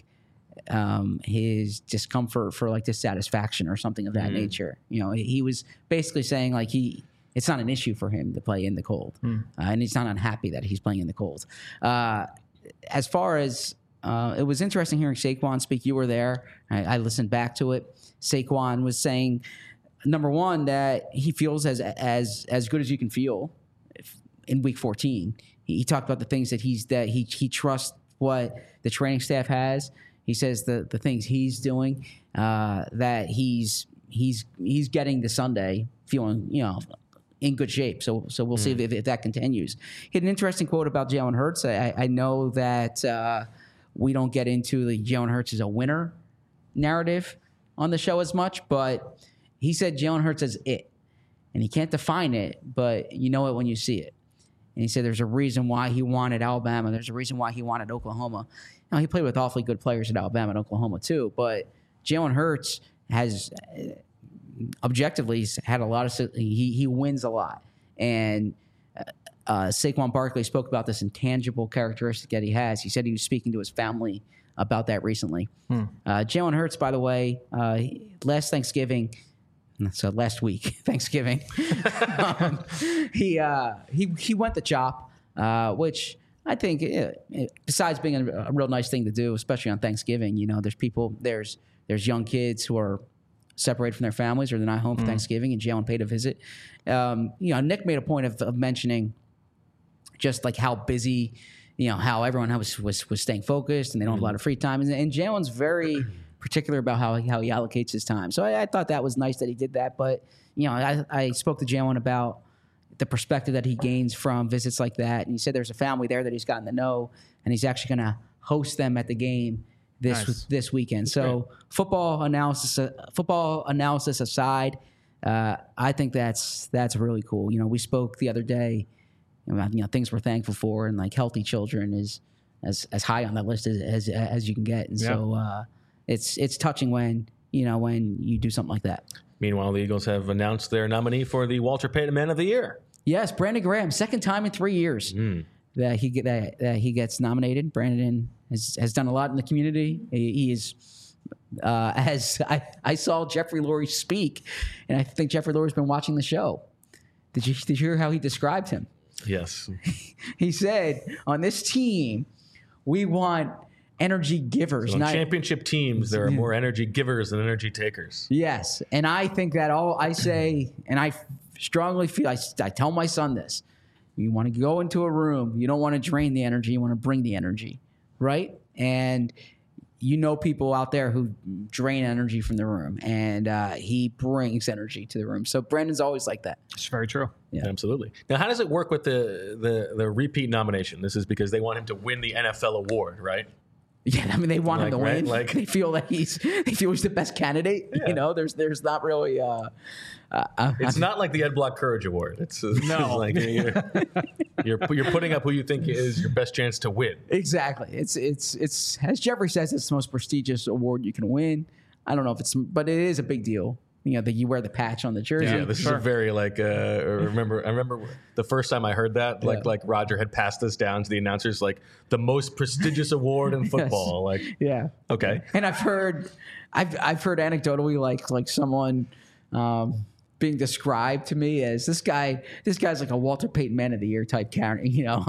um, his discomfort for like dissatisfaction or something of that nature. You know, he was basically saying like he. It's not an issue for him to play in the cold, uh, and he's not unhappy that he's playing in the cold. Uh, as far as uh, it was interesting hearing Saquon speak. You were there. I, I listened back to it. Saquon was saying, number one, that he feels as as as good as you can feel if, in Week fourteen. He, he talked about the things that he's that he he trusts what the training staff has. He says the the things he's doing uh, that he's he's he's getting to Sunday feeling you know in good shape. So so we'll see if, if that continues. He had an interesting quote about Jalen Hurts. I, I know that. Uh, We don't get into the Jalen Hurts is a winner narrative on the show as much, but he said Jalen Hurts is it. And he can't define it, but you know it when you see it. And he said there's a reason why he wanted Alabama. There's a reason why he wanted Oklahoma. Now, he played with awfully good players at Alabama and Oklahoma too, but Jalen Hurts has uh, objectively he's had a lot of – he he wins a lot. And – Uh, Saquon Barkley spoke about this intangible characteristic that he has. He said he was speaking to his family about that recently. Hmm. Uh, Jalen Hurts, by the way, uh, last Thanksgiving, so last week, Thanksgiving, um, he uh, he he went to chop, uh, which I think, uh, besides being a, a real nice thing to do, especially on Thanksgiving, you know, there's people, there's there's young kids who are separated from their families or they're not home for mm. Thanksgiving, and Jalen paid a visit. Um, you know, Nick made a point of, of mentioning just like how busy, you know, how everyone was was, was staying focused and they don't have a lot of free time. And, and Jalen's very particular about how, how he allocates his time. So I, I thought that was nice that he did that. But, you know, I, I spoke to Jalen about the perspective that he gains from visits like that. And he said there's a family there that he's gotten to know, and he's actually going to host them at the game this nice. this weekend. So great. football analysis, uh, football analysis aside, uh, I think that's that's really cool. You know, we spoke the other day about, you know, things we're thankful for, and like healthy children is as as high on that list as as, as you can get. And yeah. so uh, it's it's touching when you know when you do something like that. Meanwhile, the Eagles have announced their nominee for the Walter Payton Man of the Year. Yes, Brandon Graham, second time in three years mm. that he get that, that he gets nominated. Brandon has has done a lot in the community. He, he is. Uh, as I, I saw Jeffrey Lurie speak, and I think Jeffrey Lurie's been watching the show. Did you did you hear how he described him? Yes. He said, on this team, we want energy givers. So on championship teams, there are more energy givers than energy takers. Yes. And I think that all I say, and I strongly feel, I, I tell my son this, you want to go into a room, you don't want to drain the energy, you want to bring the energy, right? And you know people out there who drain energy from the room, and uh, he brings energy to the room. So Brandon's always like that. It's very true. Yeah, absolutely. Now, how does it work with the, the the repeat nomination? This is because they want him to win the N F L award, right? Yeah, I mean they want like, him to right? win. Like, they feel that he's they feel he's the best candidate. Yeah. You know, there's there's not really. Uh, uh, it's I, not like the Ed Block Courage Award. It's, it's no, like you're, you're you're putting up who you think is your best chance to win. Exactly. It's it's it's as Jeffrey says, it's the most prestigious award you can win. I don't know if it's, but it is a big deal. You know, that you wear the patch on the jersey. Yeah, this sure. is a very like. Uh, remember, I remember the first time I heard that, like, yeah. like Roger had passed this down to the announcers, like the most prestigious award in football. Yes. Like, yeah, okay. And I've heard, I've I've heard anecdotally, like like someone um, being described to me as this guy. This guy's like a Walter Payton Man of the Year type character. You know,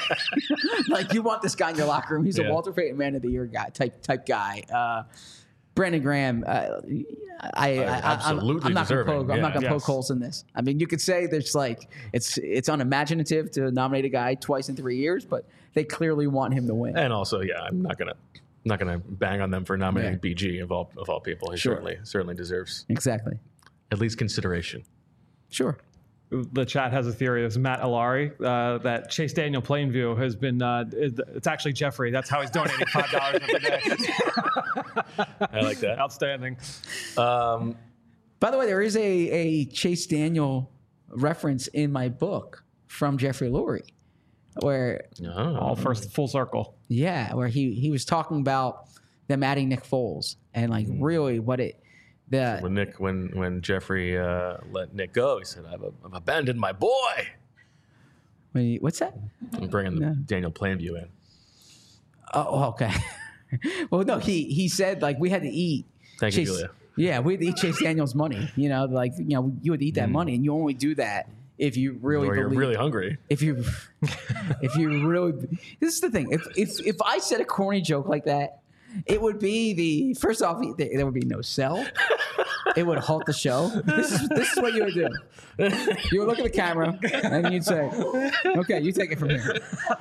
like you want this guy in your locker room. He's yeah. a Walter Payton Man of the Year guy type type guy. Uh, Brandon Graham, uh, I, I, absolutely I'm, I'm not going to poke, yeah. I'm not going to yes. poke holes in this. I mean, you could say there's like it's it's unimaginative to nominate a guy twice in three years, but they clearly want him to win. And also, yeah, I'm not going to not going to bang on them for nominating Yeah. B G of all of all people. He Sure. certainly certainly deserves Exactly. at least consideration. Sure. The chat has a theory. It's Matt Alari uh, that Chase Daniel Plainview has been. Uh, it's actually Jeffrey. That's how he's donating five dollars every day. I like that. Outstanding. Um, By the way, there is a, a Chase Daniel reference in my book from Jeffrey Lurie, where oh. All first full circle. yeah, where he he was talking about them adding Nick Foles and like really what it the When Nick, when when Jeffrey uh, let Nick go, he said, "I've, I've abandoned my boy." when he- what's that? I'm bringing the No. Daniel Plainview in. Oh, okay. Well, no, he he said like we had to eat. Thank you, Chase, Julia. Yeah, we had to eat Chase Daniel's money. You know, like you know, you would eat that money, and you only do that if you really Or you're believe. really hungry. If you, if you really, this is the thing. If if if I said a corny joke like that, it would be the first off. There, there would be no sell. It would halt the show. This is this is what you would do. You would look at the camera and you'd say, "Okay, you take it from here."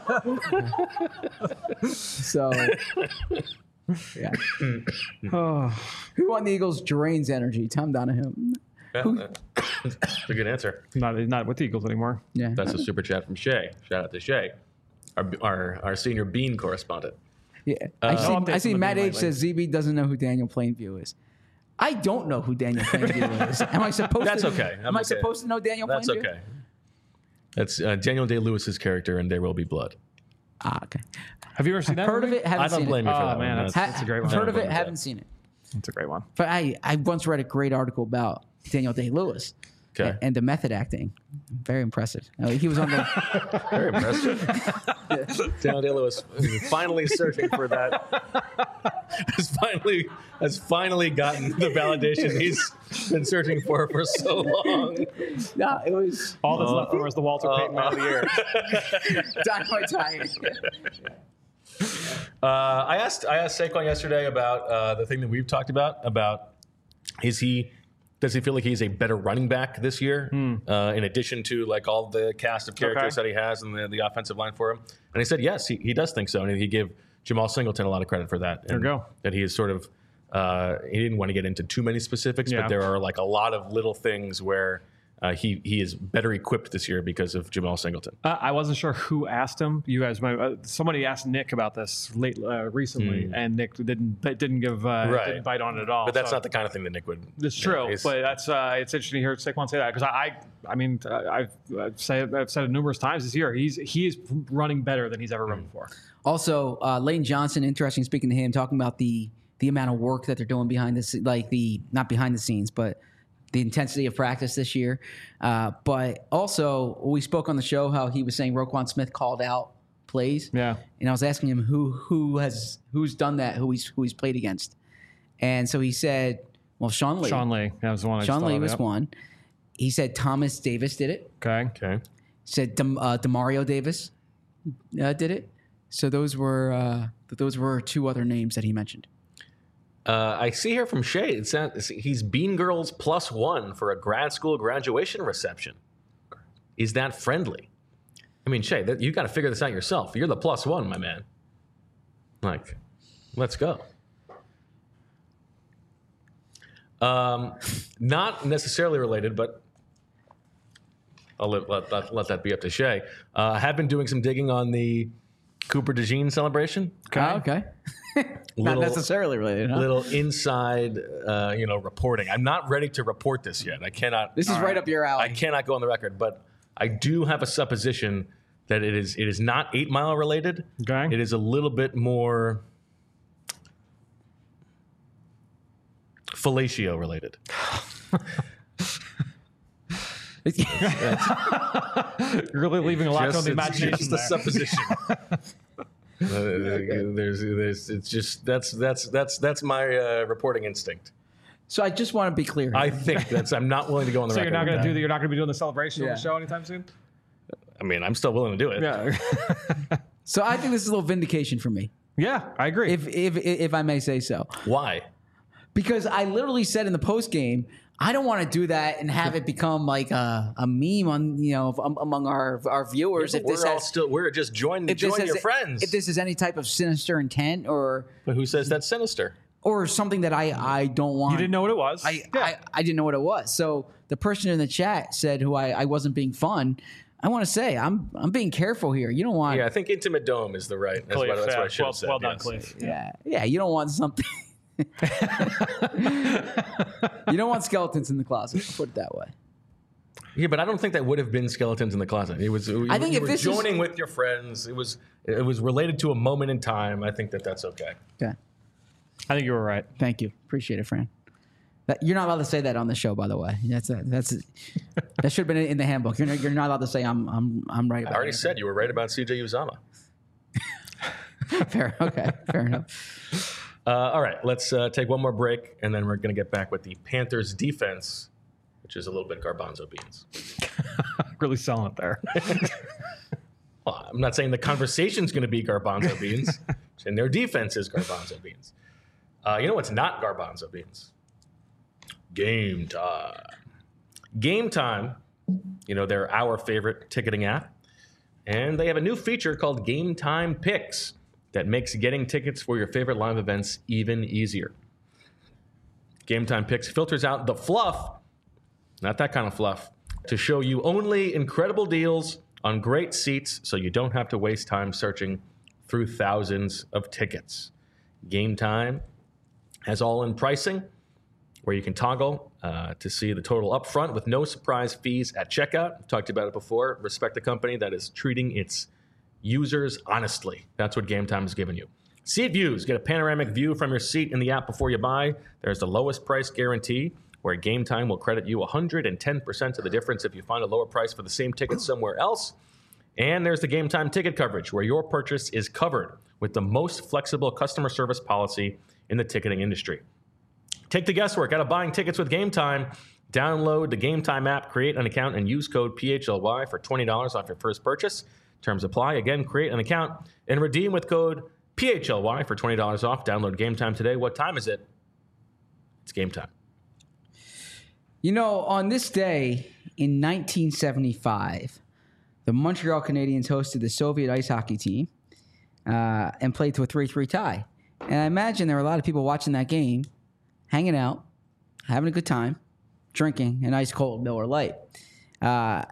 So, yeah. Oh, Who on the Eagles drains energy? Tom Donahue. Yeah, Who- that's a good answer. not not with the Eagles anymore. Yeah. That's a super chat from Shay. Shout out to Shay, our our, our senior bean correspondent. Yeah. I see, No I updates see on the Matt beam H lately. says Z B doesn't know who Daniel Plainview is. I don't know who Daniel Plainview is. Am I supposed That's to? okay. I'm Am I okay. supposed to know Daniel That's Plainview? okay. That's uh, Daniel Day-Lewis's character in There Will Be Blood. Ah, okay. Have you ever seen that? Heard of movie? it, haven't I don't seen blame it. you for Oh, that man, one. that's- Ha- that's a great one. Heard of I it, don't haven't blame seen it. It's a great one. But I, I once read a great article about Daniel Day-Lewis Okay. and, and the method acting. Very impressive. Uh, he was on the. Very impressive. Daniel Day-Lewis is finally searching for that. Has finally has finally gotten the validation he's been searching for for so long. No, it was All that's left over is the Walter Payton Man of the Year. Dynamite Tiger. Uh, I asked I asked Saquon yesterday about uh, the thing that we've talked about about is he does he feel like he's a better running back this year uh, in addition to like all the cast of characters Okay. that he has and the, the offensive line for him? And he said yes, he, he does think so, and he gave Jamal Singleton a lot of credit for that. There and you go. That he is sort of uh, he didn't want to get into too many specifics, Yeah. but there are like a lot of little things where. Uh, he he is better equipped this year because of Jamal Singleton. Uh, I wasn't sure who asked him. You guys, might, uh, somebody asked Nick about this late uh, recently, and Nick didn't didn't give uh, Right. didn't bite on it at all. But that's so- not the kind of thing that Nick would. It's you know, true, he's- but that's uh, it's interesting to hear Saquon say that because I, I, I mean, uh, I've I've said I've said it numerous times this year. He's he is running better than he's ever run before. Also, uh, Lane Johnson, interesting speaking to him, talking about the the amount of work that they're doing behind the se- like the not behind the scenes, but the intensity of practice this year. Uh, but also, we spoke on the show how he was saying Roquan Smith called out plays. Yeah. And I was asking him who who has who's done that, who he's who he's played against, and so he said, "Well, Sean Lee. Sean Lee, that was the one. I just Sean thought Lee of, was yep. one. He said Thomas Davis did it. Okay. Okay. He said Dem, uh, Demario Davis uh, did it. So those were uh, those were two other names that he mentioned. Uh, I see here from Shay, it says he's Bean Girls plus one for a grad school graduation reception. Is that friendly? I mean, Shay, that, you got to figure this out yourself. You're the plus one, my man. Like, let's go. Um, not necessarily related, but I'll let, let, let, let that be up to Shay. Uh, I have been doing some digging on the Cooper DeJean celebration. Okay. Oh, okay. Not Little- necessarily related. Huh? Little inside, uh, you know, reporting. I'm not ready to report this yet. I cannot. This is right up your alley. I cannot go on the record, but I do have a supposition that it is. It is not Eight Mile related. Okay. It is a little bit more fellatio related. You're really leaving a lot to the it's imagination just a there. supposition. Uh, there's, there's, it's just that's that's that's that's my uh, reporting instinct. So I just want to be clear. I think that's. I'm not willing to go on the So record. you're not with going to that. do that. You're not going to be doing the celebration Yeah. on the show anytime soon. I mean, I'm still willing to do it. Yeah. so I think this is a little vindication for me, yeah, I agree. if if if I may say so, Why? because I literally said in the post game, I don't want to do that and have it become like a, a meme on you know um, among our our viewers. Yeah, if we're this all has, still we're just join if this join has- your friends. If this is any type of sinister intent or but who says that's sinister? or something that I I don't want. You didn't know what it was. I, I, I didn't know what it was. So the person in the chat said who I, I wasn't being fun. I want to say I'm I'm being careful here. You don't want Yeah, I think intimate dome is the right. That's, Cliff, what, that's yeah, what I should well, have said. well done, yes. Cliff. yeah yeah you don't want something. You don't want skeletons in the closet. Put it that way. Yeah, but I don't think that would have been skeletons in the closet. It was. You, I think you if were this is- joining with your friends, it was. It was related to a moment in time. I think that that's okay. Okay. I think you were right. Thank you. Appreciate it, Fran. That, you're not allowed to say that on the show, by the way. That's a, that's a, that should have been in the handbook. You're not, you're not allowed to say I'm I'm I'm right about I already it. said you were right about C J Uzama. Fair. Okay. Fair enough. Uh, all right, let's uh, take one more break, and then we're going to get back with the Panthers defense, which is a little bit garbanzo beans. Really selling it there. Well, I'm not saying the conversation's going to be garbanzo beans, and their defense is garbanzo beans. Uh, you know what's not garbanzo beans? Game time. Game time, you know, they're our favorite ticketing app, and they have a new feature called Game Time Picks that makes getting tickets for your favorite live events even easier. Game Time Picks filters out the fluff, not that kind of fluff, to show you only incredible deals on great seats so you don't have to waste time searching through thousands of tickets. Game Time has all-in pricing where you can toggle uh, to see the total up front with no surprise fees at checkout. I've talked about it before. Respect the company that is treating its users honestly. That's what Game Time has given you. Seat views. Get a panoramic view from your seat in the app before you buy. There's the lowest price guarantee, where Game Time will credit you one hundred ten percent of the difference if you find a lower price for the same ticket somewhere else. And there's the Game Time ticket coverage, where your purchase is covered with the most flexible customer service policy in the ticketing industry. Take the guesswork out of buying tickets with Game Time. Download the Game Time app, create an account, and use code P H L Y for twenty dollars off your first purchase. Terms apply. Again, create an account and redeem with code P H L Y for twenty dollars off. Download Game Time today. What time is it? It's game time. You know, on this day in nineteen seventy-five, the Montreal Canadiens hosted the Soviet ice hockey team uh, and played to a three three tie. And I imagine there were a lot of people watching that game, hanging out, having a good time, drinking an ice cold Miller Lite. Uh,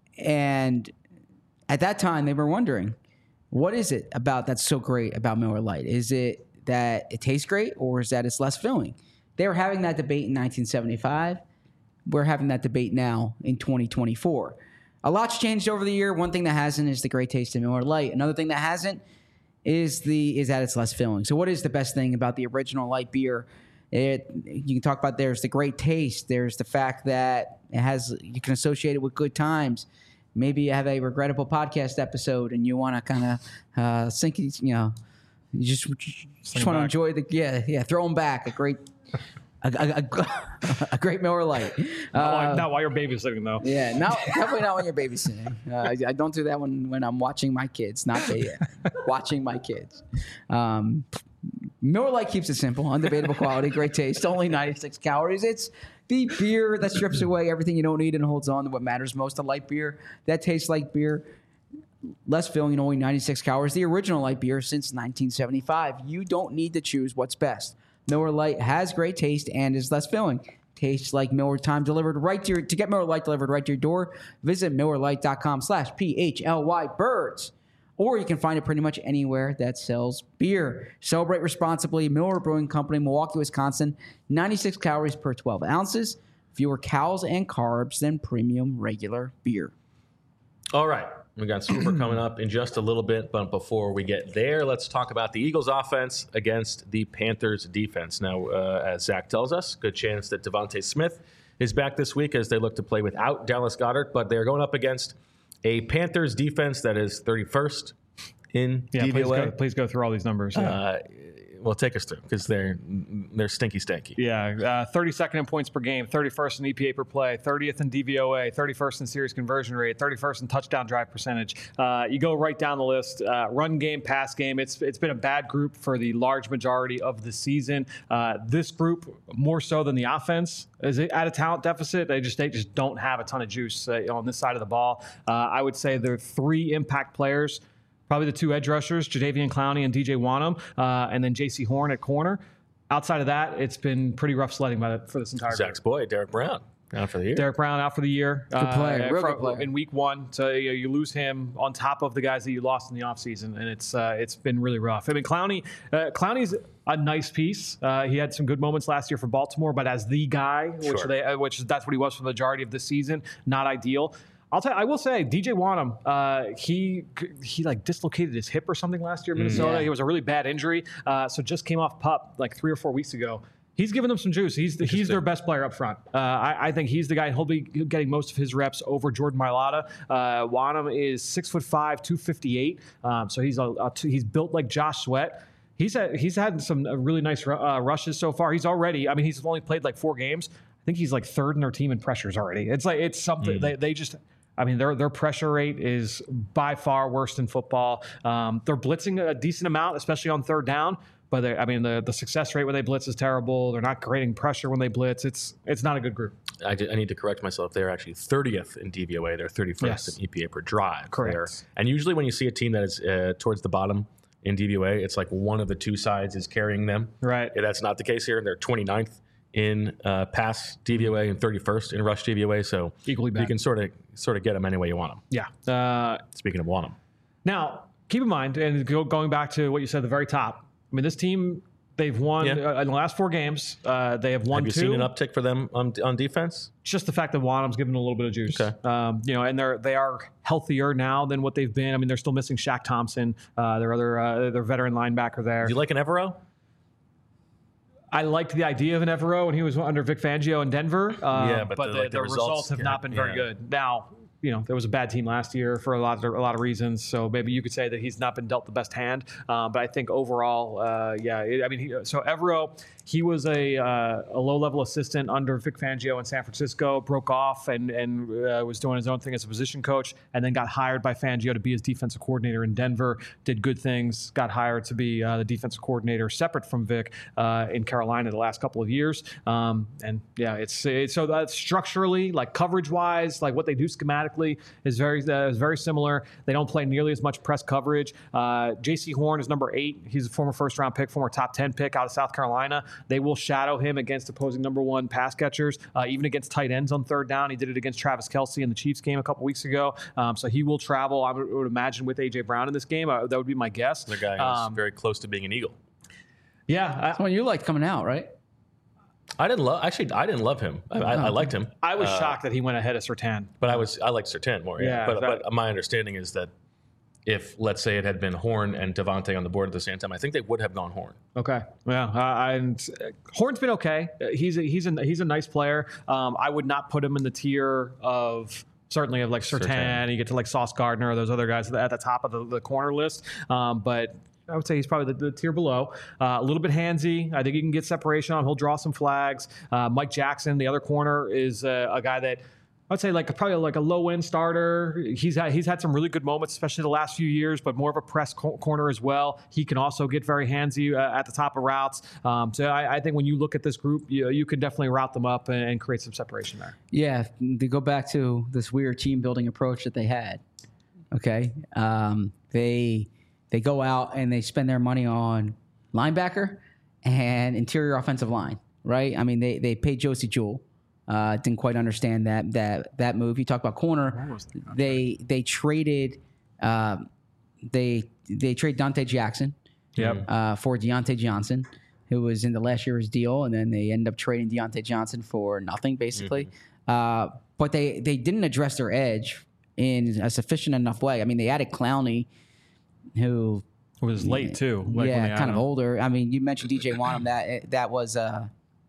and at that time, they were wondering, what is it about that's so great about Miller Lite? Is it that it tastes great, or is that it's less filling? They were having that debate in nineteen seventy-five. We're having that debate now in twenty twenty-four. A lot's changed over the year. One thing that hasn't is the great taste of Miller Lite. Another thing that hasn't is the is that it's less filling. So what is the best thing about the original light beer? It, you can talk about there's the great taste. There's the fact that it has you can associate it with good times. Maybe you have a regrettable podcast episode and you want to kind of uh, sink it, you know, you just, just want to enjoy the, yeah, yeah, throw them back. A great, a, a, a, a great Miller Lite. Not, Uh, while, not while you're babysitting, though. yeah, not, definitely not when you're babysitting. Uh, I, I don't do that when, when I'm watching my kids, not they, watching my kids. Um, Miller Lite keeps it simple, undebatable quality, great taste, only ninety-six calories. It's the beer that strips away everything you don't need and holds on to what matters most, a light beer that tastes like beer, less filling, only ninety-six calories. The original light beer since nineteen seventy-five. You don't need to choose what's best. Miller Lite has great taste and is less filling. Tastes like Miller Time delivered right to your, to get Miller Lite delivered right to your door, visit Miller Lite dot com slash P H L Y birds. Or you can find it pretty much anywhere that sells beer. Celebrate responsibly. Miller Brewing Company, Milwaukee, Wisconsin. ninety-six calories per twelve ounces. Fewer calories and carbs than premium regular beer. All right. We got Super coming up in just a little bit, but before we get there, let's talk about the Eagles offense against the Panthers defense. Now, uh, as Zach tells us, good chance that Devontae Smith is back this week as they look to play without Dallas Goedert, but they're going up against a Panthers defense that is thirty-first in Yeah, D V please O A. go, please go through all these numbers. Yeah. Uh, Well, take us through because they're they're stinky, stanky. Yeah, uh, thirty-second in points per game, thirty-first in E P A per play, thirtieth in D V O A, thirty-first in series conversion rate, thirty-first in touchdown drive percentage. Uh, you go right down the list. Uh, run game, pass game. It's it's been a bad group for the large majority of the season. Uh, this group more so than the offense is at a talent deficit. They just they just don't have a ton of juice uh, on this side of the ball. Uh, I would say there are three impact players. Probably the two edge rushers, Jadeveon Clowney and D J Wanham, uh, and then J C Horn at corner. Outside of that, it's been pretty rough sledding by the, for this entire Zach's boy, Derek Brown, out for the year. Derek Brown out for the year. Good player, uh, real from, good player. In week one, so you, know, you lose him on top of the guys that you lost in the offseason, and it's uh, it's been really rough. I mean, Clowney, uh, Clowney's a nice piece. Uh, he had some good moments last year for Baltimore, but as the guy, which Sure. they, uh, which that's what he was for the majority of the season, not ideal. I'll tell you, I will say, D J Wanham, uh, he he like dislocated his hip or something last year in Minnesota. Yeah. It was a really bad injury, uh, so just came off PUP like three or four weeks ago. He's giving them some juice. He's the, he's their best player up front. Uh, I, I think he's the guy. He'll be getting most of his reps over Jordan Mailata. Uh, Wanham is six foot five, two fifty eight. Um, so he's a, a he's built like Josh Sweat. He's had, he's had some really nice uh, rushes so far. He's already. I mean, he's only played like four games. I think he's like third in their team in pressures already. It's like it's something Mm. they they just. I mean, their their pressure rate is by far worse than football. Um, they're blitzing a decent amount, especially on third down. But they, I mean, the, the success rate when they blitz is terrible. They're not creating pressure when they blitz. It's it's not a good group. I, did, I need to correct myself. They're actually thirtieth in D V O A. They're thirty-first Yes. in E P A per drive. Correct. They're, and usually when you see a team that is uh, towards the bottom in D V O A, it's like one of the two sides is carrying them. Right. Yeah, that's not the case here. They're twenty-ninth in uh, pass D V O A and thirty-first in rush D V O A. So Equally bad. you can sort of sort of get them any way you want them. Yeah. Uh, Speaking of want them. now, keep in mind, and go, going back to what you said at the very top, I mean, this team, they've won Yeah. uh, in the last four games. Uh, they have won Have you two. seen an uptick for them on, on defense? Just the fact that Wanham's given a little bit of juice. Okay. Um, you know, and they're they are healthier now than what they've been. I mean, they're still missing Shaq Thompson, uh, their other uh, their veteran linebacker there. Do you like an Evero? I liked the idea of an Evero when he was under Vic Fangio in Denver. Um, Yeah, but but the- the, like, the the results, results have not been very yeah. good. Now, you know, there was a bad team last year for a lot of a lot of reasons. So maybe you could say that he's not been dealt the best hand. Um, but I think overall, uh, yeah. It, I mean, he, so Evero, he was a uh, a low level assistant under Vic Fangio in San Francisco. Broke off and and uh, was doing his own thing as a position coach, and then got hired by Fangio to be his defensive coordinator in Denver. Did good things. Got hired to be uh, the defensive coordinator separate from Vic uh, in Carolina the last couple of years. Um, and yeah, it's, it's so that's structurally, like coverage wise, like what they do schematically is very uh, is very similar. They don't play nearly as much press coverage. Uh, J C Horn is number eight. He's a former first round pick, former top ten pick out of South Carolina. They will shadow him against opposing number one pass catchers, uh, even against tight ends on third down. He did it against Travis Kelce in the Chiefs game a couple weeks ago. Um, so he will travel, I would, would imagine, with A J Brown in this game. Uh, that would be my guess. The guy who's Um, very close to being an Eagle. yeah, I, Someone you liked coming out, right? I didn't love. Actually, I didn't love him. I, I, I liked him. I was Uh, shocked that he went ahead of Surtain. But I was I liked Surtain more. Yeah. Yeah, but, that- but my understanding is that if let's say it had been Horn and Devontae on the board at the same time, I think they would have gone Horn. Okay. Yeah. Uh, and uh, Horn's been okay. Uh, He's a, he's a, he's a nice player. Um, I would not put him in the tier of certainly of like Surtain. Surtain. You get to like Sauce Gardner or those other guys at the top of the, the corner list. Um, but I would say he's probably the, the tier below. Uh, a little bit handsy. I think he can get separation on. He'll draw some flags. Uh, Mike Jackson, the other corner, is uh, a guy that I would say like a, probably like a low end starter. He's had he's had some really good moments, especially the last few years, but more of a press co- corner as well. He can also get very handsy uh, at the top of routes. Um, so I, I think when you look at this group, you, you can definitely route them up and, and create some separation there. Yeah, to go back to this weird team building approach that they had. Okay, um, they they go out and they spend their money on linebacker and interior offensive line. Right? I mean, they they paid Josie Jewell. Uh, didn't quite understand that that that move. You talk about corner. They they traded um, they they trade Dante Jackson Yep. uh, for Deontay Johnson, who was in the last year's deal, and then they end up trading Deontay Johnson for nothing, basically. Uh, but they they didn't address their edge in a sufficient enough way. I mean, they added Clowney, who It was late too. Like when they yeah, added kind of him. older. I mean, you mentioned D J Wanham. That that was uh,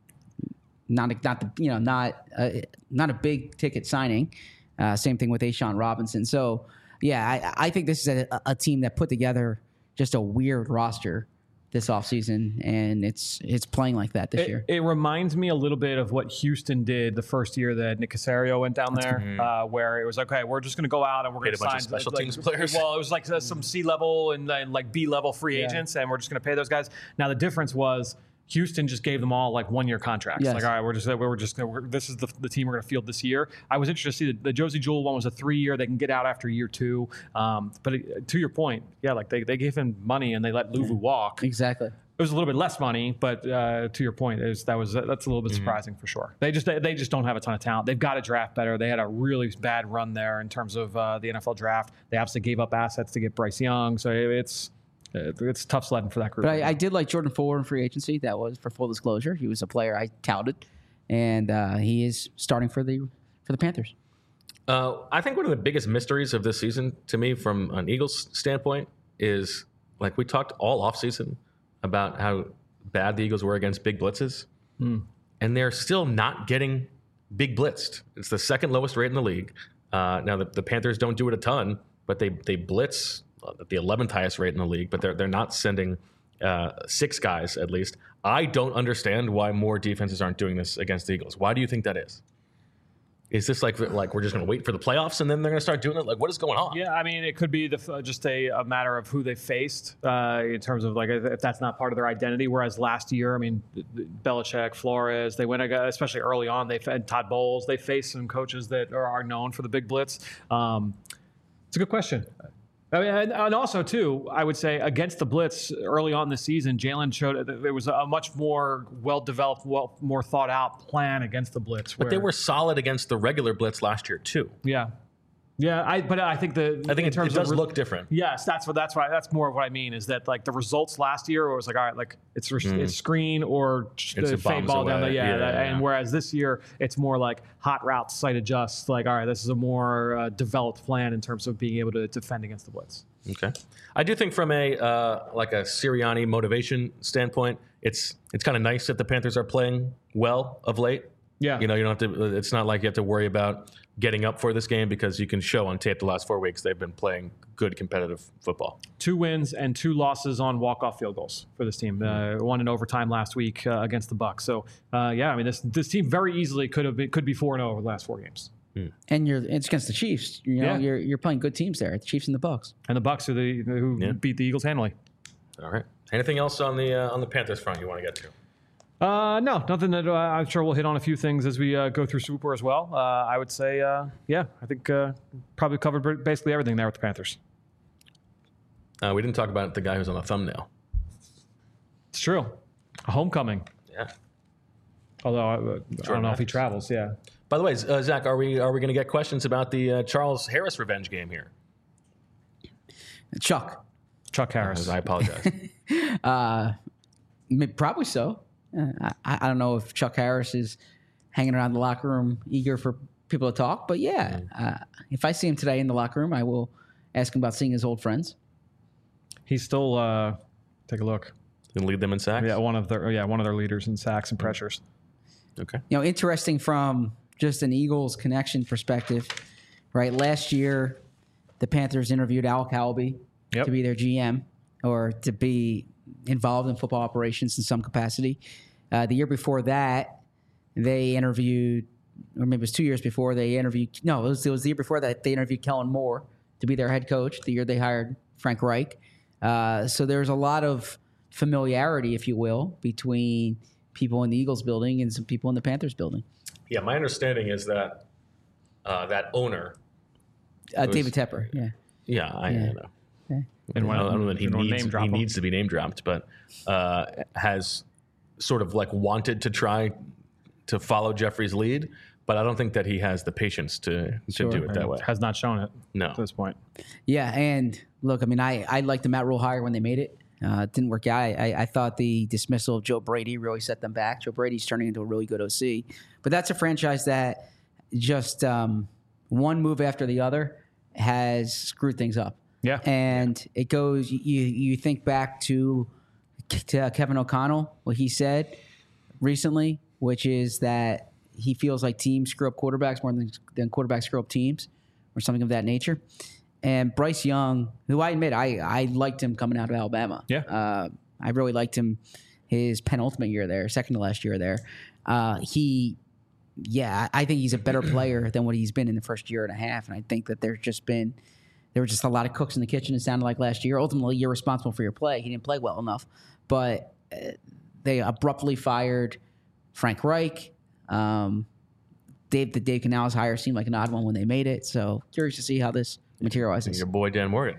not a, not the you know not a, not a big ticket signing. Uh, same thing with Ashawn Robinson. So yeah, I, I think this is a, a team that put together just a weird roster this offseason, and it's it's playing like that this it, year. It reminds me a little bit of what Houston did the first year that Nick Caserio went down there, mm-hmm. uh, where it was like, okay, we're just going to go out and we're going to sign special like, teams players. Well, it was like uh, some C level and then like B level free yeah. agents, and we're just going to pay those guys. Now the difference was Houston just gave them all like one year contracts. Yes. Like, all right, we're just we're just we're, this is the, the team we're going to field this year. I was interested to see the, the Josie Jewell one was a three year. They can get out after year two. Um, but it, to your point, yeah, like they, they gave him money and they let Luvu yeah. walk. Exactly. It was a little bit less money, but uh, to your point, it was, that was that's a little bit mm-hmm. surprising for sure. They just they, they just don't have a ton of talent. They've got to draft better. They had a really bad run there in terms of uh, the N F L draft. They obviously gave up assets to get Bryce Young, so it's it's tough sledding for that group. But I, I did like Jordan Fuller in free agency. That was for full disclosure. He was a player I touted, and uh, he is starting for the for the Panthers. Uh, I think one of the biggest mysteries of this season to me, from an Eagles standpoint, is like we talked all offseason about how bad the Eagles were against big blitzes, mm. and they're still not getting big blitzed. It's the second lowest rate in the league. Uh, now, the, the Panthers don't do it a ton, but they they blitz at the eleventh highest rate in the league, but they're, they're not sending uh, six guys at least. I don't understand why more defenses aren't doing this against the Eagles. Why do you think that is? Is this like like we're just going to wait for the playoffs and then they're going to start doing it? Like, what is going on? Yeah, I mean, it could be the, just a, a matter of who they faced uh, in terms of like if that's not part of their identity. Whereas last year, I mean, Belichick, Flores, they went especially early on. They had Todd Bowles. They faced some coaches that are, are known for the big blitz. Um, it's a good question. I mean, and, and also, too, I would say against the blitz early on this season, Jalen showed that there was a much more well-developed, well, more thought-out plan against the blitz. But where, they were solid against the regular blitz last year, too. Yeah. Yeah, I, but I think the I think in it, terms it does of, look different. Yes, that's what that's what I, that's more of what I mean is that like the results last year was like all right, like it's mm. it's screen or it's the fade ball away. down the yeah, yeah, that, yeah, and whereas this year it's more like hot routes, sight adjust. Like all right, this is a more uh, developed plan in terms of being able to defend against the blitz. Okay, I do think from a uh, like a Sirianni motivation standpoint, it's it's kind of nice that the Panthers are playing well of late. Yeah, you know, you don't have to. It's not like you have to worry about getting up for this game because you can show on tape the last four weeks they've been playing good competitive football. Two wins and two losses on walk-off field goals for this team. Uh, one in overtime last week uh, against the Bucs. So uh, yeah, I mean this this team very easily could have been, could be four and zero over the last four games. Hmm. And you're it's against the Chiefs. You know, yeah. you're you're playing good teams there. The Chiefs and the Bucs. And the Bucs are the who yeah. beat the Eagles handily. All right. Anything else on the uh, on the Panthers front you want to get to? Uh, no, nothing that uh, I'm sure we'll hit on a few things as we uh, go through Super as well. Uh, I would say, uh, yeah, I think uh, probably covered basically everything there with the Panthers. Uh, we didn't talk about the guy who's on the thumbnail. It's true. A homecoming. Yeah. Although I, I don't know if he travels. Yeah. By the way, uh, Zach, are we are we going to get questions about the uh, Charles Harris revenge game here? Chuck. Chuck Harris. Uh, I apologize. uh, probably so. I, I don't know if Chuck Harris is hanging around the locker room eager for people to talk, but yeah, uh, if I see him today in the locker room, I will ask him about seeing his old friends. He's still uh, take a look. Can lead them in sacks. Yeah, one of their yeah one of their leaders in sacks and pressures. Okay. You know, interesting from just an Eagles connection perspective, right? Last year, the Panthers interviewed Al Calby yep. to be their G M or to be involved in football operations in some capacity. Uh, the year before that, they interviewed, or maybe it was two years before, they interviewed, no, it was, it was the year before that, they interviewed Kellen Moore to be their head coach, the year they hired Frank Reich. Uh, so there's a lot of familiarity, if you will, between people in the Eagles building and some people in the Panthers building. Yeah, my understanding is that uh, that owner... Uh, was, David Tepper, yeah. Yeah, I, yeah. I know. Yeah. And I don't know that he, needs, he needs to be name dropped, but uh, has sort of like wanted to try to follow Jeffrey's lead, but I don't think that he has the patience to, to sure. do it that way. Has not shown it no. at this point. Yeah, and look, I mean, I, I liked the Matt Rule hire when they made it. Uh, it didn't work out. I, I, I thought the dismissal of Joe Brady really set them back. Joe Brady's turning into a really good O C. But that's a franchise that just um, one move after the other has screwed things up. Yeah. And yeah. it goes, you you think back to, to Kevin O'Connell, what he said recently, which is that he feels like teams screw up quarterbacks more than, than quarterbacks screw up teams or something of that nature. And Bryce Young, who I admit, I, I liked him coming out of Alabama. Yeah. Uh, I really liked him his penultimate year there, second to last year there. Uh, he, yeah, I think he's a better player than what he's been in the first year and a half. And I think that there's just been, there were just a lot of cooks in the kitchen, it sounded like last year. Ultimately, you're responsible for your play. He didn't play well enough. But uh, they abruptly fired Frank Reich. Um, Dave, the Dave Canales hire seemed like an odd one when they made it. So curious to see how this materializes. Your boy Dan Morgan.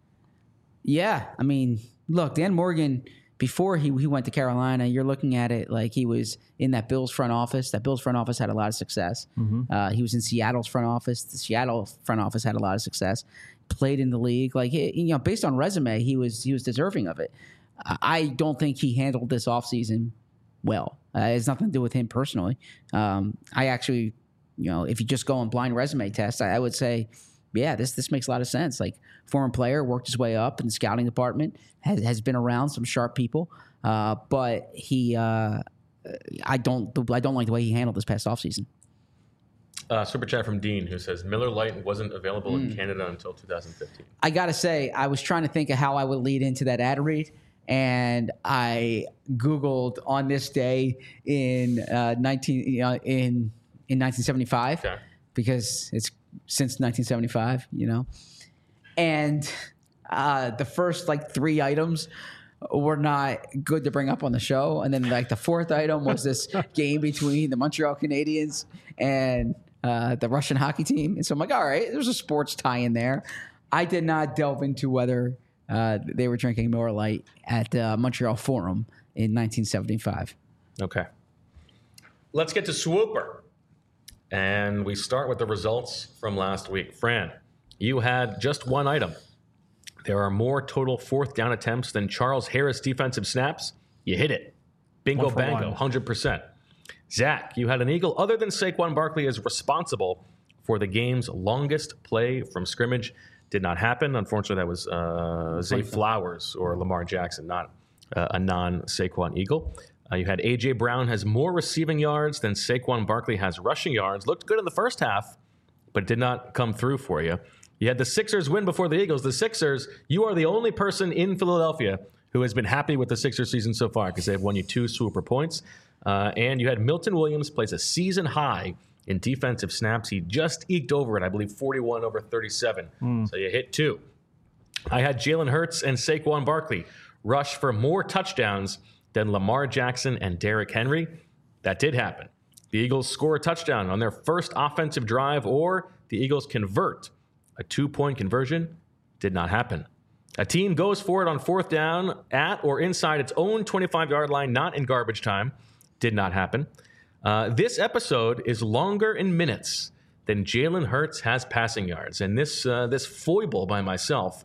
Yeah, I mean, look, Dan Morgan, before he, he went to Carolina, you're looking at it like he was in that Bills front office. That Bills front office had a lot of success. Mm-hmm. Uh, he was in Seattle's front office. The Seattle front office had a lot of success. Played in the league. Like, you know, based on resume, he was he was deserving of it. I don't think he handled this offseason well. Uh, it has nothing to do with him personally. Um, I actually, you know, if you just go on blind resume test, I, I would say, yeah, this this makes a lot of sense. Like, former player, worked his way up in the scouting department, has, has been around some sharp people, uh, but he, uh, I don't, I don't like the way he handled this past offseason. Uh, super chat from Dean, who says Miller Lite wasn't available mm. in Canada until two thousand fifteen. I gotta say, I was trying to think of how I would lead into that ad read. And I Googled on this day in uh, nineteen uh, in in nineteen seventy-five okay. because it's since nineteen seventy-five, you know. And uh, the first like three items were not good to bring up on the show, and then like the fourth item was this game between the Montreal Canadiens and uh, the Russian hockey team. And so I'm like, all right, there's a sports tie in there. I did not delve into whether. Uh, they were drinking Miller Lite at uh, Montreal Forum in nineteen seventy-five. Okay. Let's get to Swooper. And we start with the results from last week. Fran, you had just one item. There are more total fourth down attempts than Charles Harris defensive snaps. You hit it. Bingo bango, one. one hundred percent. Zach, you had an eagle other than Saquon Barkley is responsible for the game's longest play from scrimmage. Did not happen. Unfortunately, that was uh, Zay Flowers or Lamar Jackson, not uh, a non-Saquon Eagle. Uh, you had A J. Brown has more receiving yards than Saquon Barkley has rushing yards. Looked good in the first half, but did not come through for you. You had the Sixers win before the Eagles. The Sixers, you are the only person in Philadelphia who has been happy with the Sixers season so far because they've won you two Swooper points. Uh, and you had Milton Williams plays a season high in defensive snaps. He just eked over it, I believe, forty-one over thirty-seven. Mm. So you hit two. I had Jalen Hurts and Saquon Barkley rush for more touchdowns than Lamar Jackson and Derrick Henry. That did happen. The Eagles score a touchdown on their first offensive drive, or the Eagles convert. A two-point conversion did not happen. A team goes for it on fourth down at or inside its own twenty-five-yard line, not in garbage time. Did not happen. Uh, this episode is longer in minutes than Jalen Hurts has passing yards. And this uh, this foible by myself,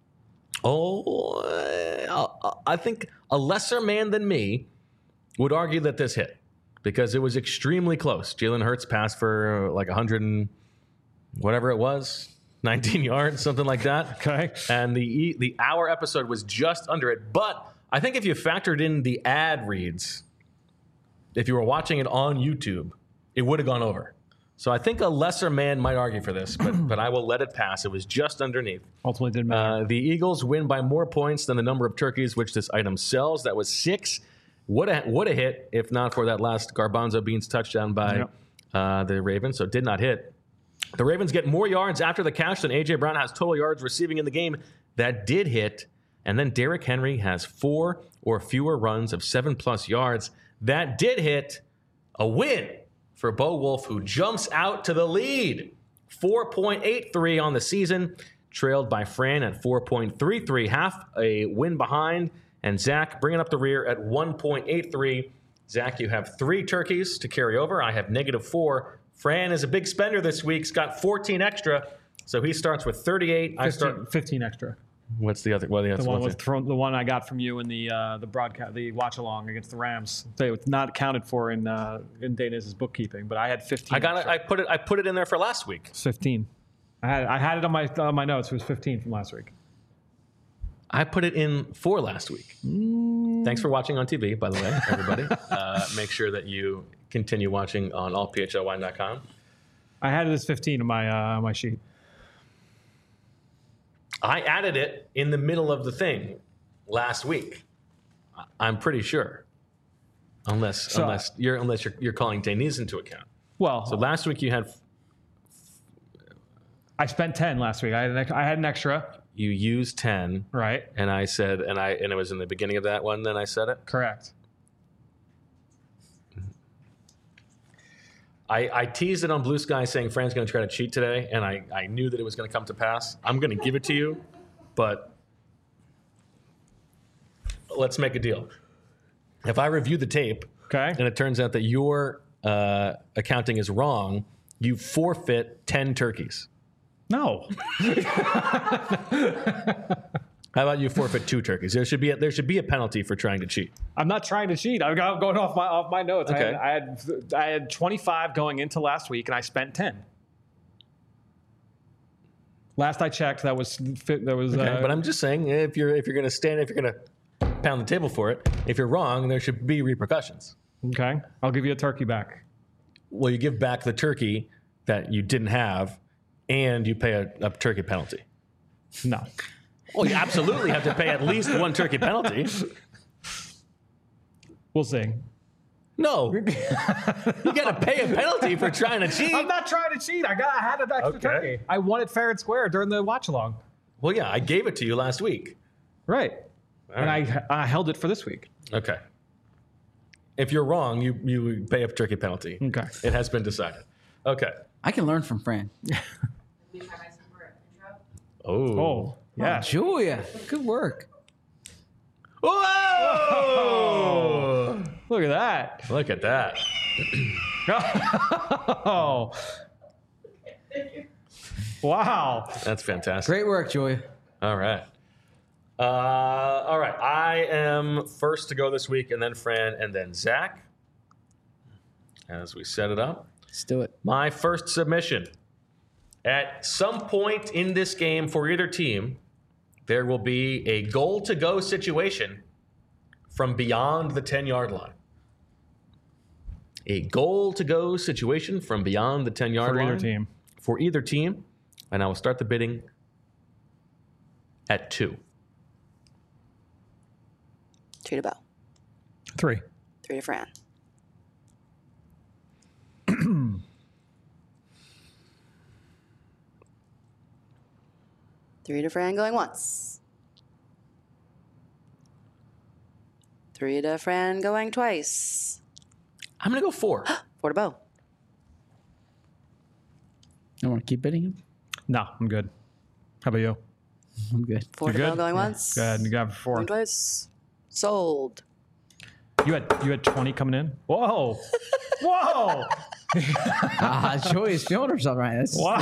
oh, uh, I think a lesser man than me would argue that this hit because it was extremely close. Jalen Hurts passed for like one hundred and whatever it was, nineteen yards, something like that. Okay. And the the hour episode was just under it. But I think if you factored in the ad reads, if you were watching it on YouTube, it would have gone over. So I think a lesser man might argue for this, but but I will let it pass. It was just underneath. Ultimately didn't matter. Uh, the Eagles win by more points than the number of turkeys which this item sells. That was six. Would have would have hit if not for that last Garbanzo Beans touchdown by yep. uh, the Ravens. So it did not hit. The Ravens get more yards after the catch than A J. Brown has total yards receiving in the game. That did hit. And then Derrick Henry has four or fewer runs of seven-plus yards. That did hit. A win for Bo Wolf, who jumps out to the lead. four point eight three on the season, trailed by Fran at four point three three, half a win behind. And Zach bringing up the rear at one point eight three. Zach, you have three turkeys to carry over. I have negative four. Fran is a big spender this week. He's got fourteen extra, so he starts with thirty-eight. fifteen, I start fifteen extra. What's the other? What the, the one was thrown, the one I got from you in the uh, the broadcast, the watch along against the Rams. They was not accounted for in uh, in Dana's bookkeeping, but I had fifteen. I got it. I put it. I put it in there for last week. It's fifteen. I had I had it on my on my notes. It was fifteen from last week. I put it in for last week. Mm. Thanks for watching on T V, by the way, everybody. uh, make sure that you continue watching on all p h l wine dot com. I had it as fifteen on my uh, on my sheet. I added it in the middle of the thing last week. I'm pretty sure. Unless So, unless you're unless you're you're calling Deniz into account. Well, So last week you had I spent ten last week. I had an, ex- I had an extra. you used ten, Right. and I said, and I and it was in the beginning of that one. Then I said it. Correct. I, I teased it on Blue Sky saying Fran's going to try to cheat today, and I, I knew that it was going to come to pass. I'm going to give it to you, but let's make a deal. If I review the tape Okay. and it turns out that your uh, accounting is wrong, you forfeit ten turkeys. No. How about you forfeit two turkeys? There should be a, there should be a penalty for trying to cheat. I'm not trying to cheat. I'm go- going off my off my notes. Okay. I, had, I had I had twenty-five going into last week, and I spent ten. Last I checked, that was fit. That was. Okay, uh, but I'm just saying, if you're if you're going to stand, if you're going to pound the table for it, if you're wrong, there should be repercussions. okay. I'll give you a turkey back. Well, you give back the turkey that you didn't have, and you pay a, a turkey penalty. No. Well, you absolutely have to pay at least one turkey penalty. We'll see. No, you got to pay a penalty for trying to cheat. I'm not trying to cheat. I got. I had an extra Okay. turkey. I won it fair and square during the watch along. Well, yeah, I gave it to you last week. Right. And I I held it for this week. Okay. If you're wrong, you you pay a turkey penalty. Okay. It has been decided. Okay. I can learn from Fran. Oh. Oh. Yeah. Oh, Julia, good work. Whoa! Look at that. Look at that. Oh. Wow. That's fantastic. Great work, Julia. All right. Uh, all right. I am first to go this week, and then Fran, and then Zach. As we set it up. Let's do it. My first submission. At some point in this game for either team, there will be a goal-to-go situation from beyond the ten-yard line. A goal-to-go situation from beyond the ten-yard For line. either team. For either team. And I will start the bidding at two. Two to Bo. Three. Three to Fran. Three to Fran going once. Three to Fran going twice. I'm going to go four. Four to Bo. I want to keep bidding him. No, I'm good. How about you? I'm good. Four You're to Bo good? going Yeah. once. Go ahead. You got four. Going twice. Sold. You had you had twenty coming in. Whoa. Whoa. Ah, Julia's feeling herself right. That's, Wow.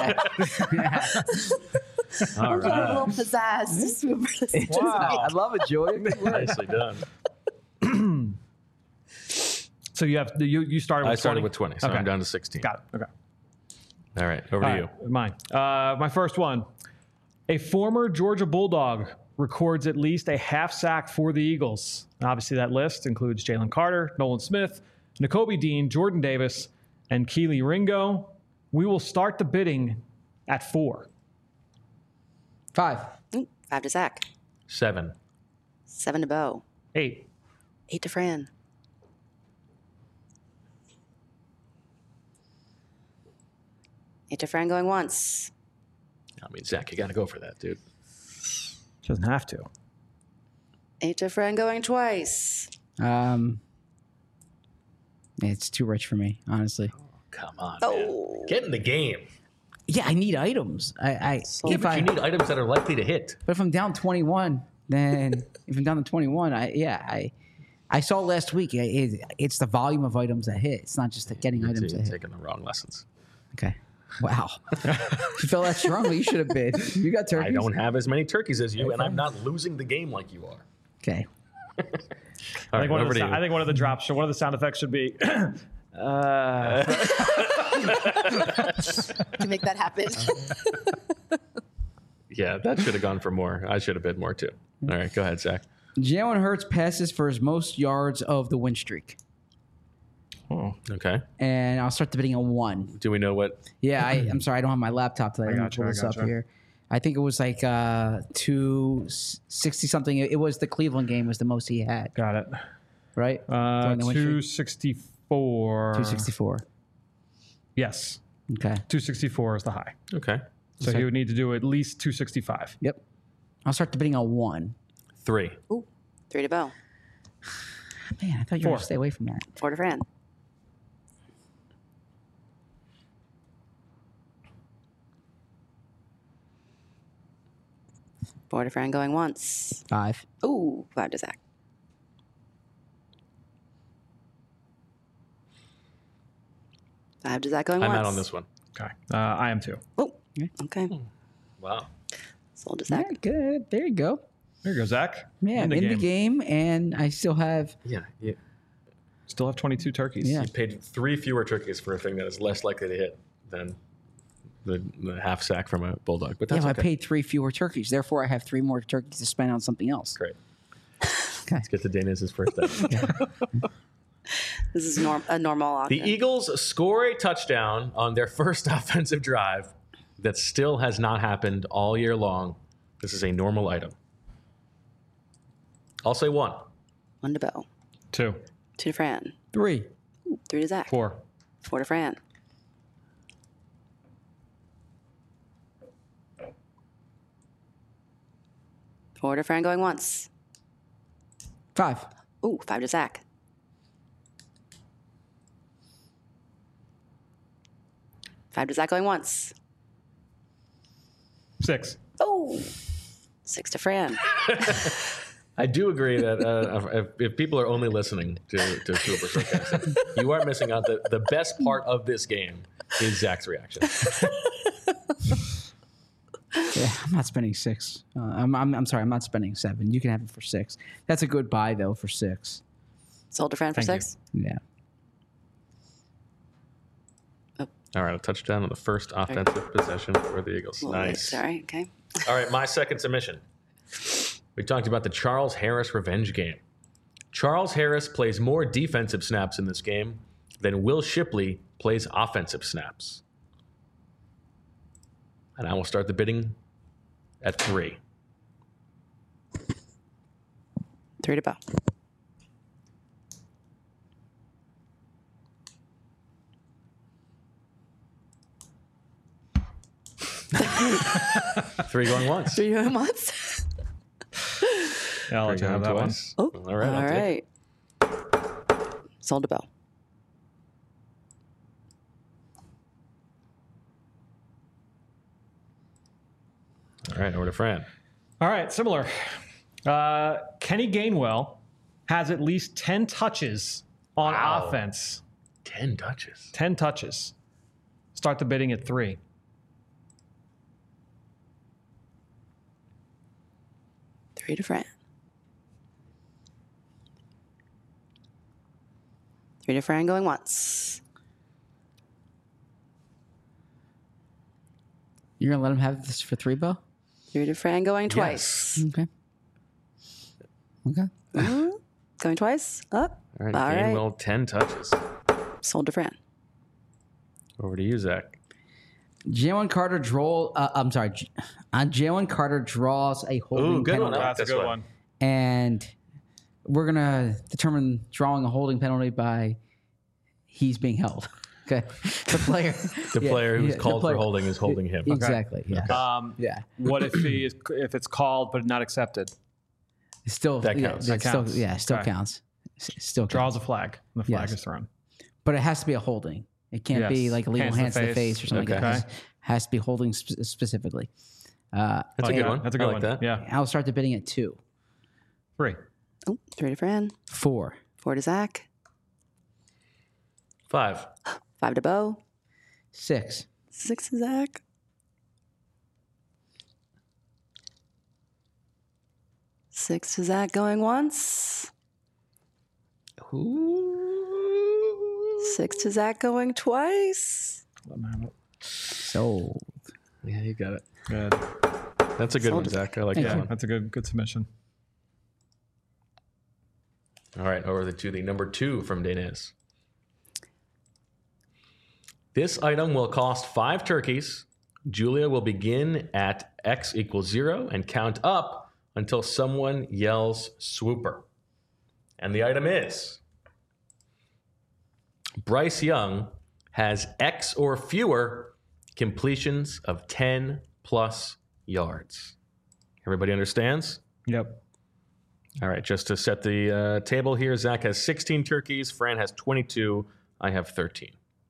All I'm feeling a right. little pizzazz to swoop for this Wow. I love it, Julia. Good work. Nicely done. So you have you you started with I started twenty? with twenty, so Okay. I'm down to sixteen. Got it. Okay. All right, over to All you. right, mine. Uh, my first one. A former Georgia Bulldog records at least a half sack for the Eagles. Obviously, that list includes Jalen Carter, Nolan Smith, Nakobe Dean, Jordan Davis, and Keely Ringo. We will start the bidding at four. Five. Ooh, five to Zach. Seven. Seven to Bo. Eight. Eight to Fran. Eight to Fran going once. I mean, Zach, you got to go for that, dude. She doesn't have to. Eight to Fran going twice. Um, it's too rich for me, honestly. Come on, Oh. man. Get in the game. Yeah, I need items. I, I Yeah, if but I, you need items that are likely to hit. but if I'm down twenty-one, then if I'm down to twenty-one, I yeah, I I saw last week. It, it, it's the volume of items that hit. It's not just the getting items You're that hit. taking the wrong lessons. Okay. Wow. You feel that strongly? You should have bid. You got turkeys. I don't have as many turkeys as you, and I'm not losing the game like you are. Okay. All I right, think, one of over the, to sou- you. I think one of the drops, should- one of the sound effects should be. uh, To make that happen. Yeah, that should have gone for more. I should have bid more too. All right, go ahead, Zach. Jalen Hurts passes for his most yards of the win streak. oh, Okay. And I'll start the bidding on one. Do we know what? Yeah, I, I'm sorry, I don't have my laptop today. I I'm gotcha, pull I this up gotcha. here. I think it was like uh, two sixty something. It was the Cleveland game was the most he had, Got it. right? Uh, During the win streak? two sixty-four. two sixty-four. Yes. Okay. two sixty-four is the high. Okay. So he would need to do at least two sixty-five. Yep. I'll start the bidding on one. Three. Ooh, three to Bo. Man, I thought you were Four. going to stay away from that. Four to Fran. Four to Fran going once. Five. Ooh, five to Zach. Five to Zach going I'm once. out on this one. Okay. Uh, I am too. Oh, okay. Wow. Sold to Zach. Very good. There you go. There you go, Zach. Yeah, in, the, game. and I still have. Yeah. You, Still have twenty-two turkeys. Yeah. you paid three fewer turkeys for a thing that is less likely to hit than the, the half sack from a bulldog. But Yeah, that's but okay. I paid three fewer turkeys. Therefore, I have three more turkeys to spend on something else. Great. Okay. Let's get to Dana's first step. This is norm- a normal The auction. Eagles score a touchdown on their first offensive drive that still has not happened all year long. This is a normal item. I'll say one. One to Bo. Two. Two to Fran. Three. Ooh, three to Zach. Four. Four to Fran. Four to Fran going once. Five. Ooh, five to Zach. Five to Zach going once. Six. Oh, six to Fran. I do agree that uh, if, if people are only listening to, to Super Sarcastic, you are missing out. The, the best part of this game is Zach's reaction. Yeah, I'm not spending six. Uh, I'm, I'm I'm sorry, I'm not spending seven. You can have it for six. That's a good buy though for six. Sold to Fran for Thank you. six. Yeah. All right, a touchdown on the first offensive possession for the Eagles. Little late, Nice. Sorry. Okay. All right, my second submission. We talked about the Charles Harris revenge game. Charles Harris plays more defensive snaps in this game than Will Shipley plays offensive snaps. And I will start the bidding at three. Three to Bo. Three going once. Three going once. Yeah, I'll let you Three have going that one. twice. Oh, All right. all I'll take it. right. Sold to Bo. All right, over to Fran. All right, similar. Uh, Kenny Gainwell has at least ten touches on Wow. offense. Ten touches. ten touches. Start the bidding at three. Three to Fran. Three to Fran going once. You're gonna let him have this for three, Bo? Three to Fran going twice. Okay. Okay. Mhm. Going twice. Up. All right, All right. Gainwell, ten touches. Sold to Fran. Over to you, Zach. Jalen Carter draw. Uh, I'm sorry. J- Uh, Jalen Carter draws a holding Ooh, good one. penalty, I like That's a this good one. one. and we're gonna determine drawing a holding penalty by he's being held. Okay, the player. The yeah, player who's yeah, the called player- for holding is holding him. Exactly. Yeah. Um, Yeah. What if he is, if it's called but not accepted? It's still That yeah, counts. it's That still- counts. yeah, it still Okay. counts. S- Still counts. Draws a flag. And the flag Yes. is thrown. But it has to be a holding. It can't be Yes. like illegal Hands to hands to the face. face or something like Okay. that. It has to be holding sp- specifically. Uh, That's Oh, a good yeah, one. That's a good I like one. that. Yeah. I'll start the bidding at two, Three. Oh, three to Fran. four, Four to Zach. Five. Five to Bo. six, Six to Zach. Six to Zach going once. Six to Zach going twice. Let me have it. sold. Yeah, you got it. Good. That's a good Sold one, it. Zach. I like Thank that Yeah, one. that's a good good submission. All right, over to the number two from Danis. This item will cost five turkeys, Julia will begin at X equals zero and count up until someone yells swooper. And the item is Bryce Young has X or fewer completions of ten plus yards. Everybody understands? Yep. All right, just to set the uh, table here, Zach has sixteen turkeys, Fran has twenty-two, I have thirteen.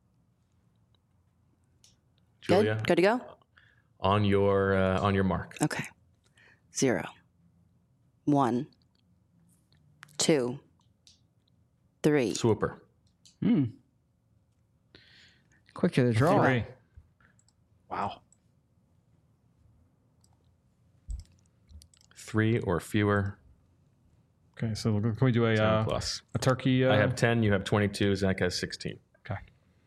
Julia, Good? Good to go? on your uh, on your mark. Okay. Zero. One. Two. Three. Swooper. Hmm. Quick to the draw. Three. Wow. Three or fewer. Okay, so can we do a ten uh, plus. a turkey? Uh, I have ten. You have twenty-two. Zach has sixteen. Okay.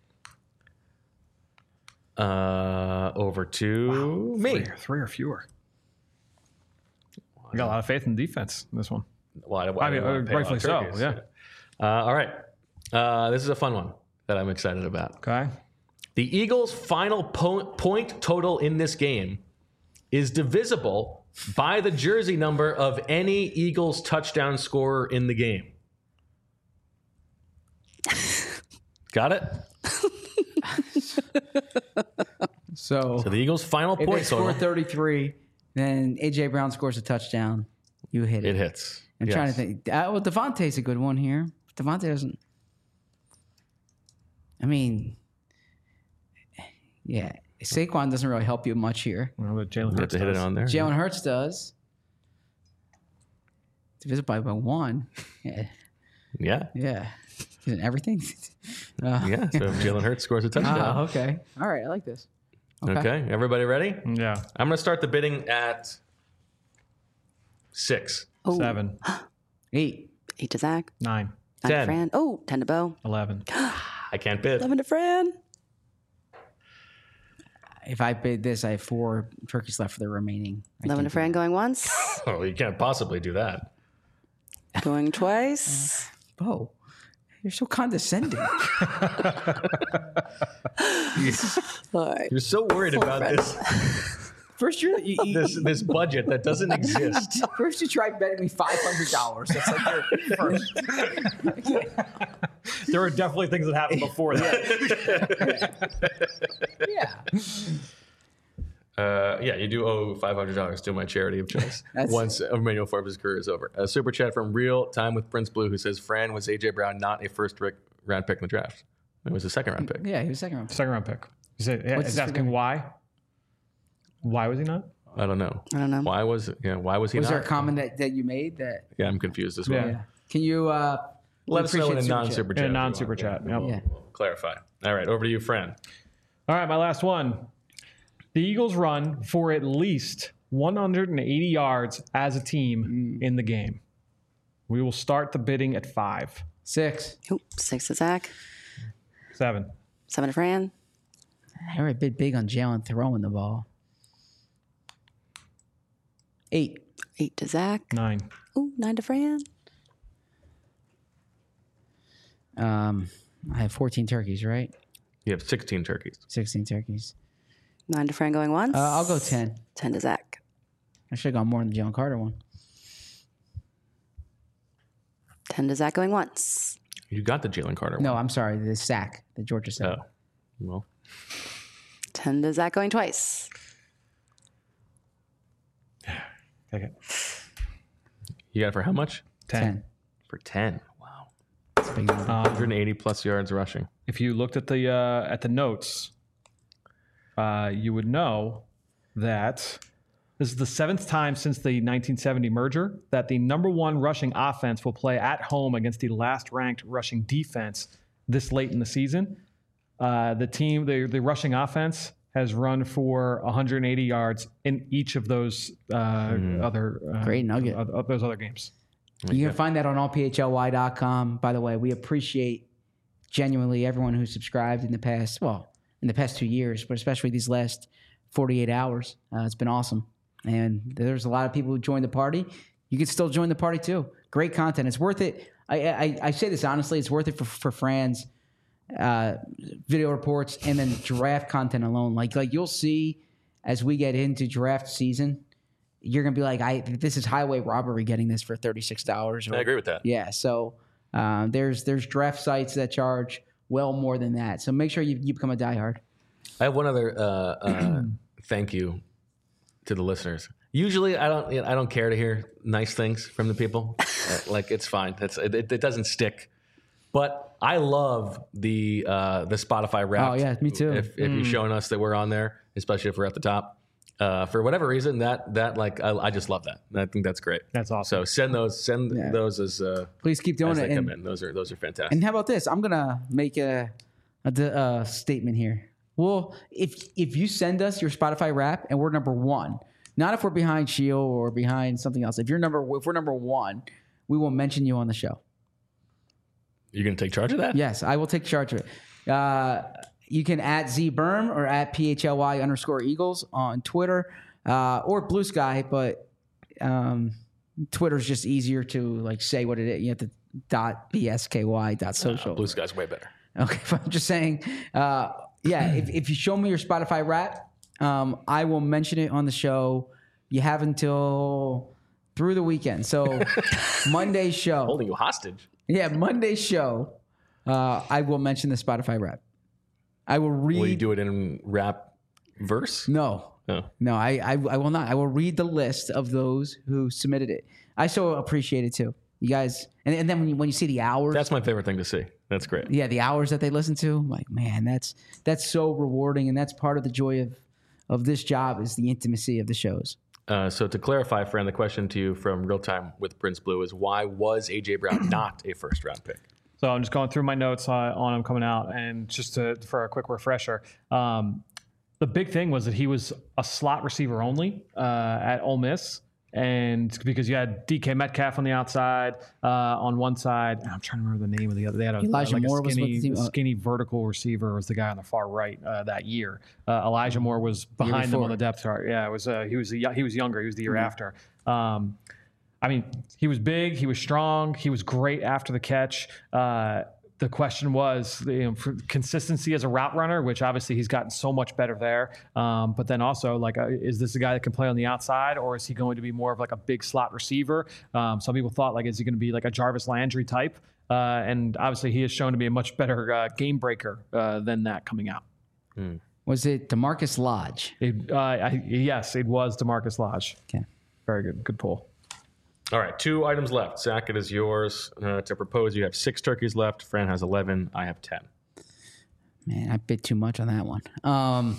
Uh, over to me. Three, three or fewer. I got a lot of faith in defense in this one. Well, I, I, I mean, don't wanna pay a lot rightfully of so, turkeys. yeah. Uh, all right. Uh, this is a fun one that I'm excited about. Okay. The Eagles' final po- point total in this game is divisible by the jersey number of any Eagles touchdown scorer in the game. Got it? So, So the Eagles' final if they point score total, thirty-three, then A J Brown scores a touchdown. You hit it. it hits. I'm Yes. trying to think. Uh, well, Devontae's a good one here. Devontae doesn't. I mean, yeah, Saquon doesn't really help you much here. Well, but Jalen You have Hurts to hit it does. on there. Jalen Hurts does. Divided by by one. Yeah, Yeah. yeah. Isn't everything? Uh, Yeah. So if Jalen Hurts scores a touchdown. Ah, okay. All right. I like this. Okay. Everybody ready? Yeah. I'm going to start the bidding at six. Oh, Seven. Eight. Eight to Zach. Nine. Nine Ten. to Fran. Oh, ten to Bo. Eleven. I can't bid. Eleven to Fran. If I bid this, I have four turkeys left for the remaining. I Eleven can't to Fran going once. Oh, you can't possibly do that. Going twice. do- Bo, you're so condescending. All right. You're so worried Full about friend. this, First, you, you, you this this budget that doesn't exist. first you tried betting me five hundred dollars. That's like your first. There were definitely things that happened before that. Yeah. Uh, yeah, you do owe five hundred dollars to my charity of choice That's- once Emmanuel Forbes' career is over. A super chat from Real Time with Prince Blue who says, Fran, was A J Brown not a first ric- round pick in the draft? It was a second round pick. Yeah, he was second round. Second round pick. Is it? Yeah, What's is his asking figure? why? Why was he not? I don't know. I don't know. Why was yeah? Why was he Was not? there a comment that, that you made that? Yeah, I'm confused as well. Yeah. Yeah. Can you uh, Let us know in a appreciate super non super chat. chat. In a if you non super want. chat. Yeah, Yep. we'll- Yeah. we'll clarify. All right, over to you, Fran. All right, my last one. The Eagles run for at least one hundred eighty yards as a team in the game. We will start the bidding at five. Six. Oop, six to Zach. Seven. Seven to Fran. I already bid big on Jalen throwing the ball. Eight. Eight to Zach. Nine. Ooh, nine to Fran. Um, I have fourteen turkeys, right? You have sixteen turkeys. sixteen turkeys. Nine to Fran going once. Uh, I'll go ten. Ten to Zach. I should have gone more than the Jalen Carter one. Ten to Zach going once. You got the Jalen Carter one. No, I'm sorry. The sack. The Georgia sack. Oh, well, Ten to Zach going twice. Take it. you got it for how much? Ten. ten. For ten. Wow. That's a big number. Um, one hundred eighty plus yards rushing. if you looked at the uh, at the notes, uh, you would know that this is the seventh time since the nineteen seventy merger that the number one rushing offense will play at home against the last ranked rushing defense this late in the season. Uh, the team, the, the rushing offense, has run for one hundred eighty yards in each of those uh, other uh, Great nugget. Of, of those other games. You can find that on all p h l y dot com. By the way, we appreciate genuinely everyone who subscribed in the past, well, in the past two years, but especially these last forty-eight hours. Uh, it's been awesome. And there's a lot of people who joined the party. You can still join the party too. Great content. It's worth it. I, I, I say this honestly. It's worth it for, for Fran's uh, video reports and then draft content alone. Like, like you'll see as we get into draft season, you're gonna be like, I this is highway robbery getting this for thirty-six dollars. I agree with that. Yeah, so um, there's there's draft sites that charge well more than that. So make sure you, you become a diehard. I have one other uh, uh, thank you to the listeners. Usually, I don't I don't care to hear nice things from the people. uh, like it's fine. It's it, it doesn't stick. But I love the uh, the Spotify Wrapped. Oh, yeah, me too. If, if you're showing us that we're on there, especially if we're at the top, uh, for whatever reason, that that like I, I just love that. I think that's great. That's awesome. So send those send Yeah. those as uh, Please keep doing as it. they come And, in. Those are those are fantastic. and how about this? I'm gonna make a, a, d- a statement here. Well, if if you send us your Spotify Wrap and we're number one, not if we're behind Shield or behind something else. If you're number if we're number one, we will mention you on the show. You're gonna take charge of that? Yes, I will take charge of it. Uh, you can at Z Berm or at P H L Y underscore Eagles on Twitter uh, or Blue Sky, but um, Twitter's just easier to like say what it is. You have to dot B S K Y dot social. Uh, Blue Sky's way better. Okay, but I'm just saying, uh, yeah, if, if you show me your Spotify Wrap, um, I will mention it on the show. You have until through the weekend. So Monday's show. Holding you hostage. Yeah, Monday's show, uh, I will mention the Spotify Wrap. I will read. Will you do it in rap verse? No, No. no, I, I, I will not. I will read the list of those who submitted it. I so appreciate it too. You guys, and, and then when you, when you see the hours, That's my favorite thing to see. That's great. yeah, the hours that they listen to, I'm like, man, that's that's so rewarding, and that's part of the joy of of this job is the intimacy of the shows. Uh, so to clarify, friend, the question to you from Real Time with Prince Blue is why was A J Brown not a first round pick? So I'm just going through my notes uh, on him coming out, and just to, for a quick refresher, um, the big thing was that he was a slot receiver only uh, at Ole Miss, and because you had D K Metcalf on the outside, uh, on one side, and I'm trying to remember the name of the other. They had a, Elijah like Moore a was skinny, with the team. Oh. skinny vertical receiver was the guy on the far right uh, that year. Uh, Elijah Moore was behind them before. on the depth chart. Yeah, it was. Uh, he was. A, he was younger. He was the year Mm-hmm. after. Um, I mean, he was big. He was strong. He was great after the catch. Uh, the question was, you know, for consistency as a route runner, which obviously he's gotten so much better there. Um, but then also, like, uh, is this a guy that can play on the outside, or is he going to be more of like a big slot receiver? Um, some people thought, like, is he going to be like a Jarvis Landry type? Uh, and obviously, he has shown to be a much better uh, game breaker uh, than that coming out. Was it DeMarcus Lodge? It, uh, I, yes, it was DeMarcus Lodge. Okay. Very good. Good pull. All right, two items left. Zach, it is yours uh, to propose. You have six turkeys left. Fran has eleven. I have ten. Man, I bit too much on that one. Um,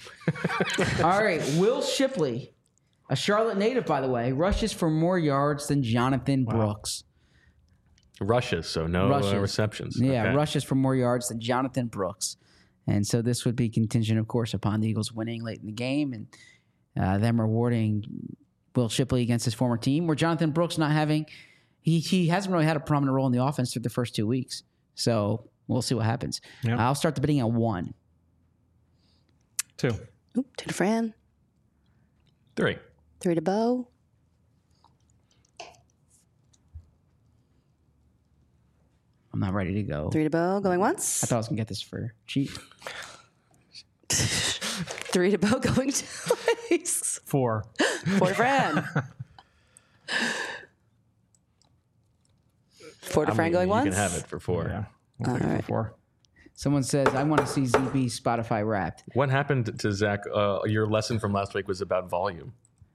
all right, Will Shipley, a Charlotte native, by the way, rushes for more yards than Jonathan Brooks. Rushes, so no Rushes. Uh, receptions. Yeah, Okay. rushes for more yards than Jonathan Brooks. And so this would be contingent, of course, upon the Eagles winning late in the game and uh, them rewarding Will Shipley against his former team, where Jonathan Brooks not having, he, he hasn't really had a prominent role in the offense through the first two weeks. So we'll see what happens. Yep. I'll start the bidding at one. Two. Oop, two to Fran. Three. Three to Bo. I'm not ready to go. Three to Bo. Going once. I thought I was going to get this for cheap. Three to Bo. Going twice. Four. Four to Fran. Four to I Fran mean, going you once. can have it for four. Yeah. I'll take it for right. four. Someone says, I want to see Z B Spotify Wrapped. What happened to Zach? Uh, your lesson from last week was about volume.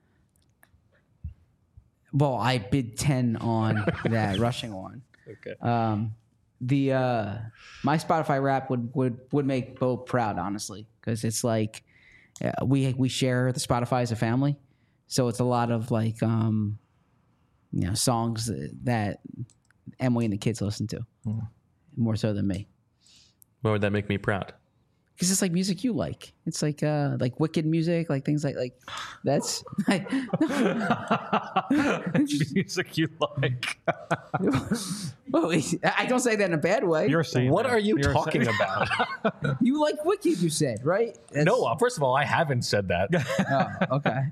Well, I bid ten on that rushing one. Okay. Um, the uh, my Spotify Wrap would would would make Bo proud, honestly, because it's like uh, we we share the Spotify as a family, so it's a lot of like um, you know songs that Emily and the kids listen to more so than me, Why would that make me proud? because it's like music you like. It's like uh, like Wicked music, like things like like that's. Music you like. Well, I don't say that in a bad way. You're saying What that. are you You're talking saying- about? You like Wicked, you said, right? That's- No, uh, first of all, I haven't said that. Oh, okay.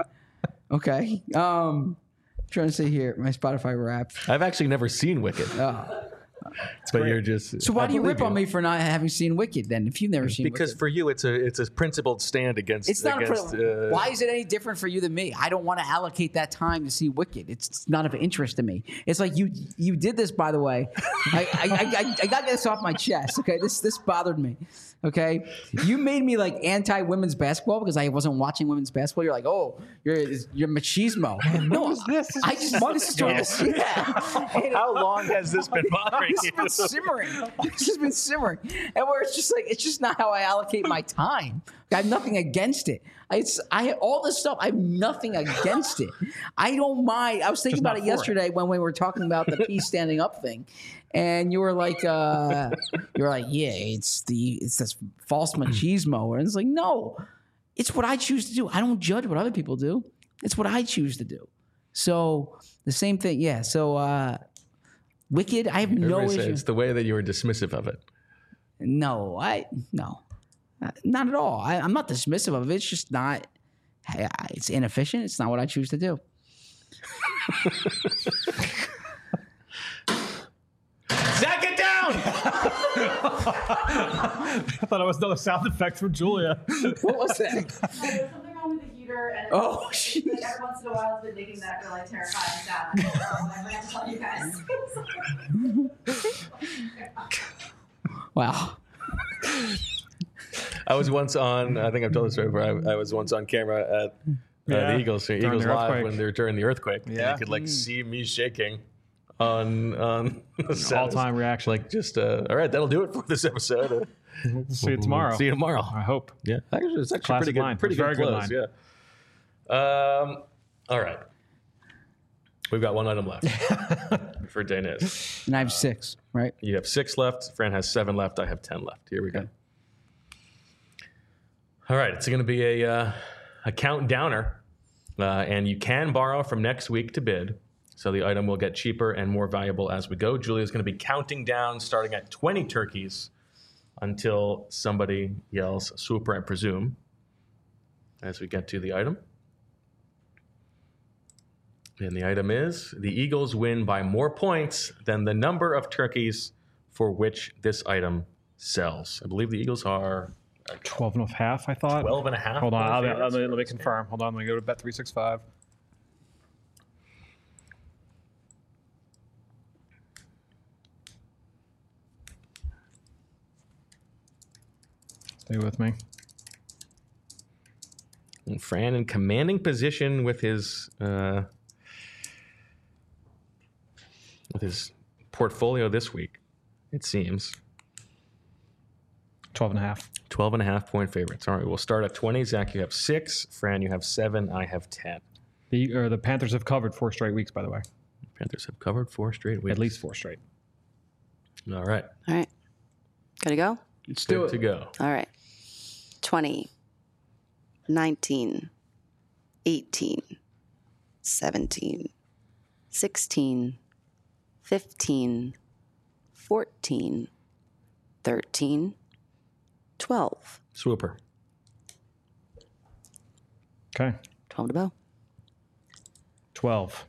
Okay. Um, trying to see here my Spotify Wrap. I've actually never seen Wicked. Oh, but you're just. So why I do you believe rip on me for not having seen Wicked then? If you've never seen Because Wicked? for you, it's a it's a principled stand against. It's not. against, A, uh, why is it any different for you than me? I don't want to allocate that time to see Wicked. It's not of interest to me. It's like you you did this, by the way. I I, I, I, I got to get this off my chest. Okay, this this bothered me. Okay, you made me like anti women's basketball because I wasn't watching women's basketball. You're like, oh, you're you're machismo. No, what is this? I just want to start this. Yeah. How long has this been bothering This you? has been simmering. This has been simmering, and where it's just like it's just not how I allocate my time. I have nothing against it. It's I all this stuff. I have nothing against it. I don't mind. I was thinking Just about not it for yesterday when we were talking about the peace standing up thing, and you were like, uh, you were like, yeah, it's the it's this false machismo, and it's like, no, it's what I choose to do. I don't judge what other people do. It's what I choose to do. So the same thing, yeah. So uh, Wicked, I have no Everybody says issue. it's the way that you were dismissive of it. No, I no, Uh, not at all. I, I'm not dismissive of it. It's just not. I- I- It's inefficient. It's not what I choose to do. Zach, get down! I thought it was another sound effect from Julia. What was that? There's something wrong with the heater, and it's Oh, like, jeez. like every once in a while it's been making that really terrifying sound. So I might have to tell you guys. Wow. I was once on. I think I've told this story before. I, I was once on camera at uh, Yeah, the Eagles, during Eagles the Live earthquake. when they were during the earthquake. And Yeah. you could like see me shaking on on the set. All-time reaction. Like just uh, all right, that'll do it for this episode. Uh, We'll see you tomorrow. See you tomorrow. I hope. Yeah, actually, it's actually Classic pretty good. line. Pretty It was good very close. good Yeah. Um. All right. We've got one item left for Danis. And I have six, right? You have six left. Fran has seven left. I have ten left. Here we go. All right, it's going to be a uh, a countdowner, uh, and you can borrow from next week to bid. So the item will get cheaper and more valuable as we go. Julia's going to be counting down, starting at twenty turkeys, until somebody yells "super," I presume, as we get to the item. And the item is the Eagles win by more points than the number of turkeys for which this item sells. I believe the Eagles are twelve and a half, I thought. twelve and a half. Hold on. point I'll, favorites let, me, for let me this game. confirm. Hold on. Let me go to Bet three sixty-five. Stay with me. And Fran in commanding position with his uh, with his portfolio this week, it seems. twelve and a half. twelve and a half point favorites. All right, we'll start at twenty. Zach, you have six. Fran, you have seven. I have ten. The, or the Panthers have covered four straight weeks, by the way. Panthers have covered four straight weeks. At least four straight. All right. All right. Gotta go? Let's Good do it. to go. All right. twenty, nineteen, eighteen, seventeen, sixteen, fifteen, fourteen, thirteen, twelve. Swooper. Okay. twelve to bow. twelve.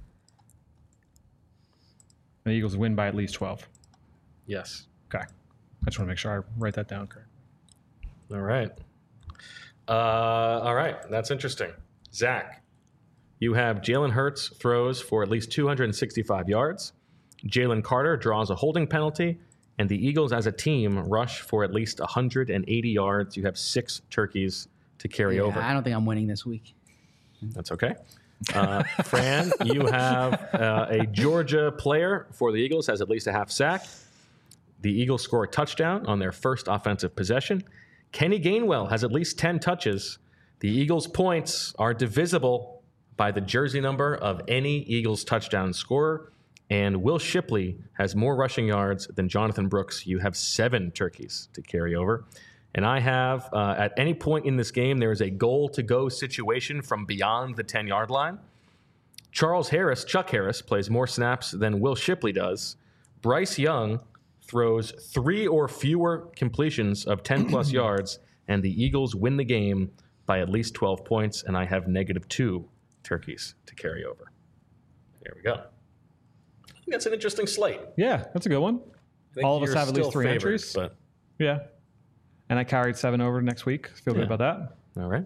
The Eagles win by at least twelve. Yes. Okay. I just want to make sure I write that down correct. All right. Uh, all right. That's interesting. Zach, you have Jalen Hurts throws for at least two hundred sixty-five yards. Jalen Carter draws a holding penalty. And the Eagles as a team rush for at least one hundred eighty yards. You have six turkeys to carry Yeah, over. I don't think I'm winning this week. That's okay. Uh, Fran, you have uh, a Georgia player for the Eagles, has at least a half sack. The Eagles score a touchdown on their first offensive possession. Kenny Gainwell has at least ten touches. The Eagles' points are divisible by the jersey number of any Eagles touchdown scorer. And Will Shipley has more rushing yards than Jonathan Brooks. You have seven turkeys to carry over. And I have, uh, at any point in this game, there is a goal-to-go situation from beyond the ten-yard line. Charles Harris, Chuck Harris, plays more snaps than Will Shipley does. Bryce Young throws three or fewer completions of ten-plus yards, and the Eagles win the game by at least twelve points, and I have negative two turkeys to carry over. There we go. think that's an interesting slate. Yeah, that's a good one. I think All of us you're have at least still three favored, entries. But Yeah. And I carried seven over next week. Feel Yeah. good about that. all right.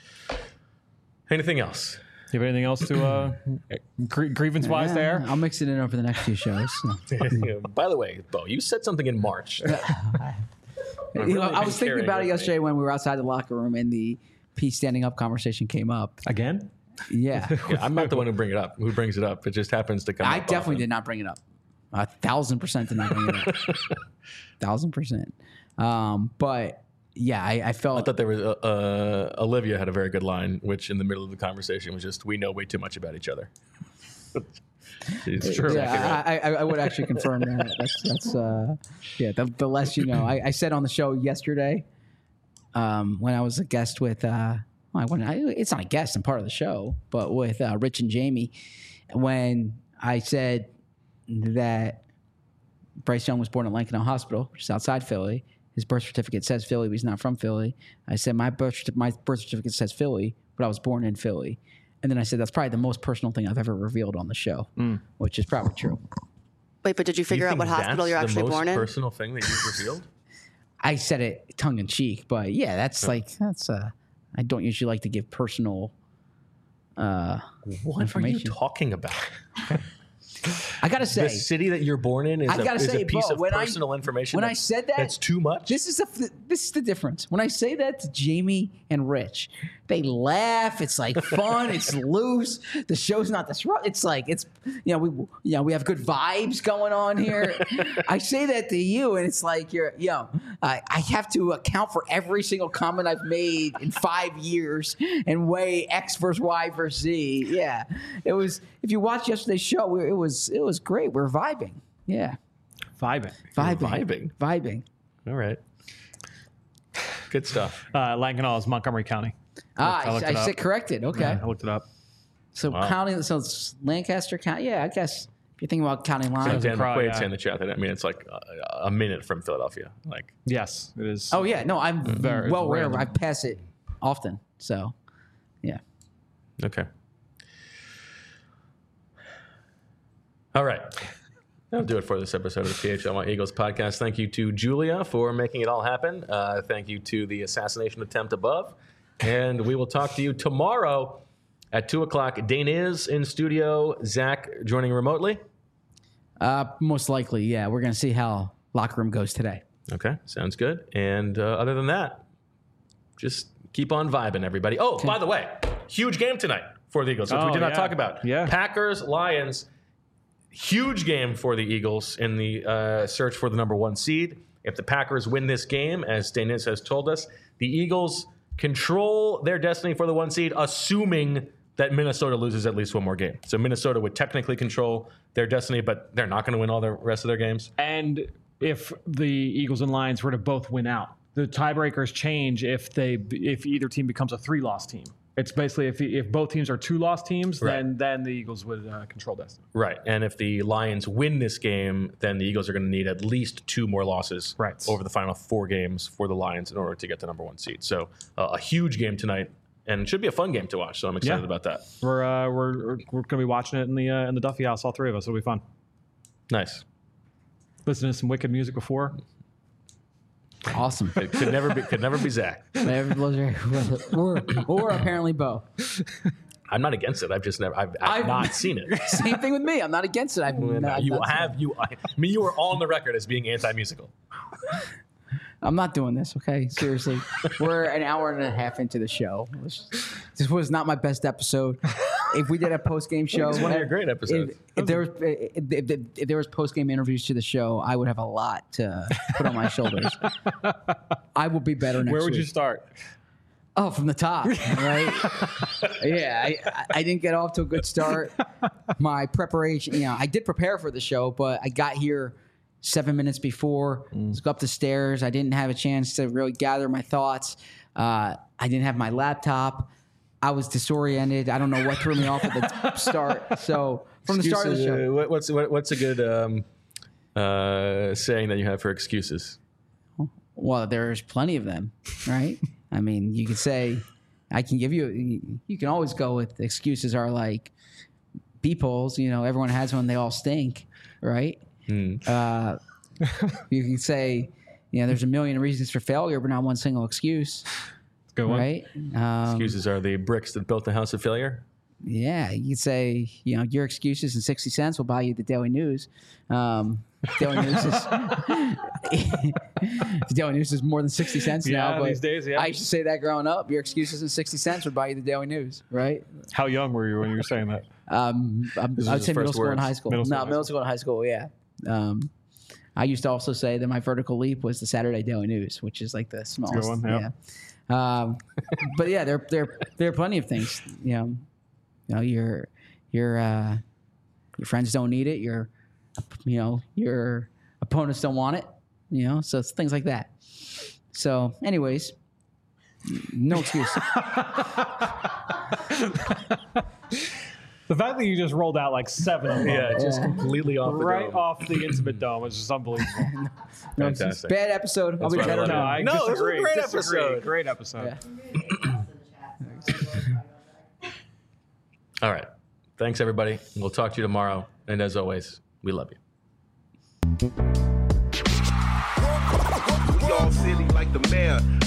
Anything else? Do you have anything else to uh, gr- grievance wise Yeah, there? I'll mix it in over the next few shows. so. By the way, Bo, you said something in March. You know, really I been was thinking carrying about with it me. yesterday when we were outside the locker room and the Pete standing up conversation came up. Again? Yeah. Yeah, I'm not the one who bring it up. Who brings it up? It just happens to come. I up definitely often. did not bring it up. A thousand percent did not bring it up. thousand percent. Um, but yeah, I, I felt. I thought there was uh, uh, Olivia had a very good line, which in the middle of the conversation was just, "We know way too much about each other." She's True. exactly Yeah, right. I, I, I would actually confirm that. That's that's uh, yeah. The, the less you know. I, I said on the show yesterday, um, when I was a guest with, uh, well, I, when I, it's not a guest, I'm part of the show, but with uh, Rich and Jamie, when I said that Bryce Young was born in Lankenau Hospital, which is outside Philly. His birth certificate says Philly, but he's not from Philly. I said my birth certi- my birth certificate says Philly, but I was born in Philly. And then I said that's probably the most personal thing I've ever revealed on the show, which is probably true. Wait, but did you Do you figure out think what hospital that's you're the actually most born in? personal thing that you've revealed? I said it tongue in cheek, but yeah, that's like that's. Uh, I don't usually like to give personal uh, What are you information. talking about? I gotta say, The city that you're born in is, I a, gotta is say, a piece Bo, of when I- personal information. when I that's- said that- that's too much. this is the this is the difference. When I say that to Jamie and Rich, they laugh. It's like fun. It's loose. The show's not disrupt. It's like it's you know we you know we have good vibes going on here. I say that to you, and it's like you're you know I, I have to account for every single comment I've made in five years and weigh X versus Y versus Z. Yeah, it was. If you watched yesterday's show, we- it was it was great. We're vibing. Yeah, Vibing. vibing, vibing. vibing. All right. Good stuff. Uh, Lankenau is Montgomery County. Ah, I I, looked I it up. said corrected. Okay. Yeah, I looked it up. So Wow. county, so it's Lancaster County. Yeah, I guess if you're thinking about county So lines. Dan Crow, McQuaid yeah. saying in the chat that I mean it's like a, a minute from Philadelphia. Like Yes, it is. Oh yeah, no, I'm Very- well it's aware. random. I pass it often. So, yeah. okay. All right. That'll do it for this episode of the P H L Y Eagles podcast. Thank you to Julia for making it all happen. Uh, thank you to the assassination attempt above. And we will talk to you tomorrow at two o'clock. Dane is in studio. Zach joining remotely. Uh, most likely, yeah. We're gonna see how locker room goes today. Okay, sounds good. And uh, other than that, just keep on vibing, everybody. Oh, by the way, huge game tonight for the Eagles, which we Oh, did not yeah. talk about. Yeah. Packers, Lions, huge game for the Eagles in the uh, search for the number one seed. If the Packers win this game, as Danis has told us, the Eagles control their destiny for the one seed, assuming that Minnesota loses at least one more game. So Minnesota would technically control their destiny, but they're not going to win all the rest of their games. And if the Eagles and Lions were to both win out, the tiebreakers change if they if either team becomes a three-loss team. It's basically if if both teams are two-loss teams, Right. then then the Eagles would uh, control destiny. Right. And if the Lions win this game, then the Eagles are going to need at least two more losses Right. over the final four games for the Lions in order to get the number one seed. So uh, a huge game tonight, and it should be a fun game to watch. So I'm excited Yeah. about that. We're uh, we're we're going to be watching it in the uh, in the Duffy House, all three of us. It'll be fun. Nice. Listen to some wicked music before. Awesome. It could never be could never be Zach. or, or apparently Bo. I'm not against it. I've just never I've, I've I've- not seen it. Same thing with me. I'm not against it. I've not, you not- have you I mean you are on the record as being anti-musical. I'm not doing this. Okay, seriously. We're an hour and a half into the show. This- This was not my best episode. If we did a post game show, It's one of your great episodes. If, if there was if, if, if there was post game interviews to the show, I would have a lot to put on my shoulders. I will be better next Where would week. you start? Oh, from the top, right? yeah, I, I- I didn't get off to a good start. My preparation, you know, I did prepare for the show, but I got here seven minutes before. Let's go up the stairs. I didn't have a chance to really gather my thoughts. Uh, I didn't have my laptop. I was disoriented. I don't know what threw me off at the start. So from the start of the Excuses, show, uh, what- what's what, what's a good um, uh, saying that you have for excuses? well, there's plenty of them, right? I mean, you could say, I can give you, you can always go with excuses are like B polls, you know, everyone has one. They all stink, right? Mm. Uh, you can say, you know, there's a million reasons for failure, but not one single excuse. Good one. Right? Um, Excuses are the bricks that built the house of failure. Yeah, you could say, you know, your excuses and sixty cents will buy you the Daily News. Um, Daily News is the Daily News is more than sixty cents Yeah, now. But these days, yeah. I used to say that growing up. Your excuses and sixty cents would buy you the Daily News, right? How young were you when you were saying that? Um, I'm, This I would is say his middle first school and words. high school. Middle school, no, high middle school and high school. Yeah. Um, I used to also say that my vertical leap was the Saturday Daily News, which is like the smallest. one, yeah. yeah. Um, but yeah, there there there are plenty of things. You know, you know your your uh, your friends don't need it. Your you know your opponents don't want it. You know, so it's things like that. So, anyways, no excuse. The fact that you just rolled out like seven of them. Yeah, just Yeah. completely off the Right dome. off the Intimate Dome is just unbelievable. No excuse. Fantastic. Bad episode. I'll That's be why I better love No, it. now. I No, this was a disagree. great Disagree. episode. Great episode. Yeah. All right. Thanks, everybody. We'll talk to you tomorrow. And as always, we love you. We all silly like the mayor.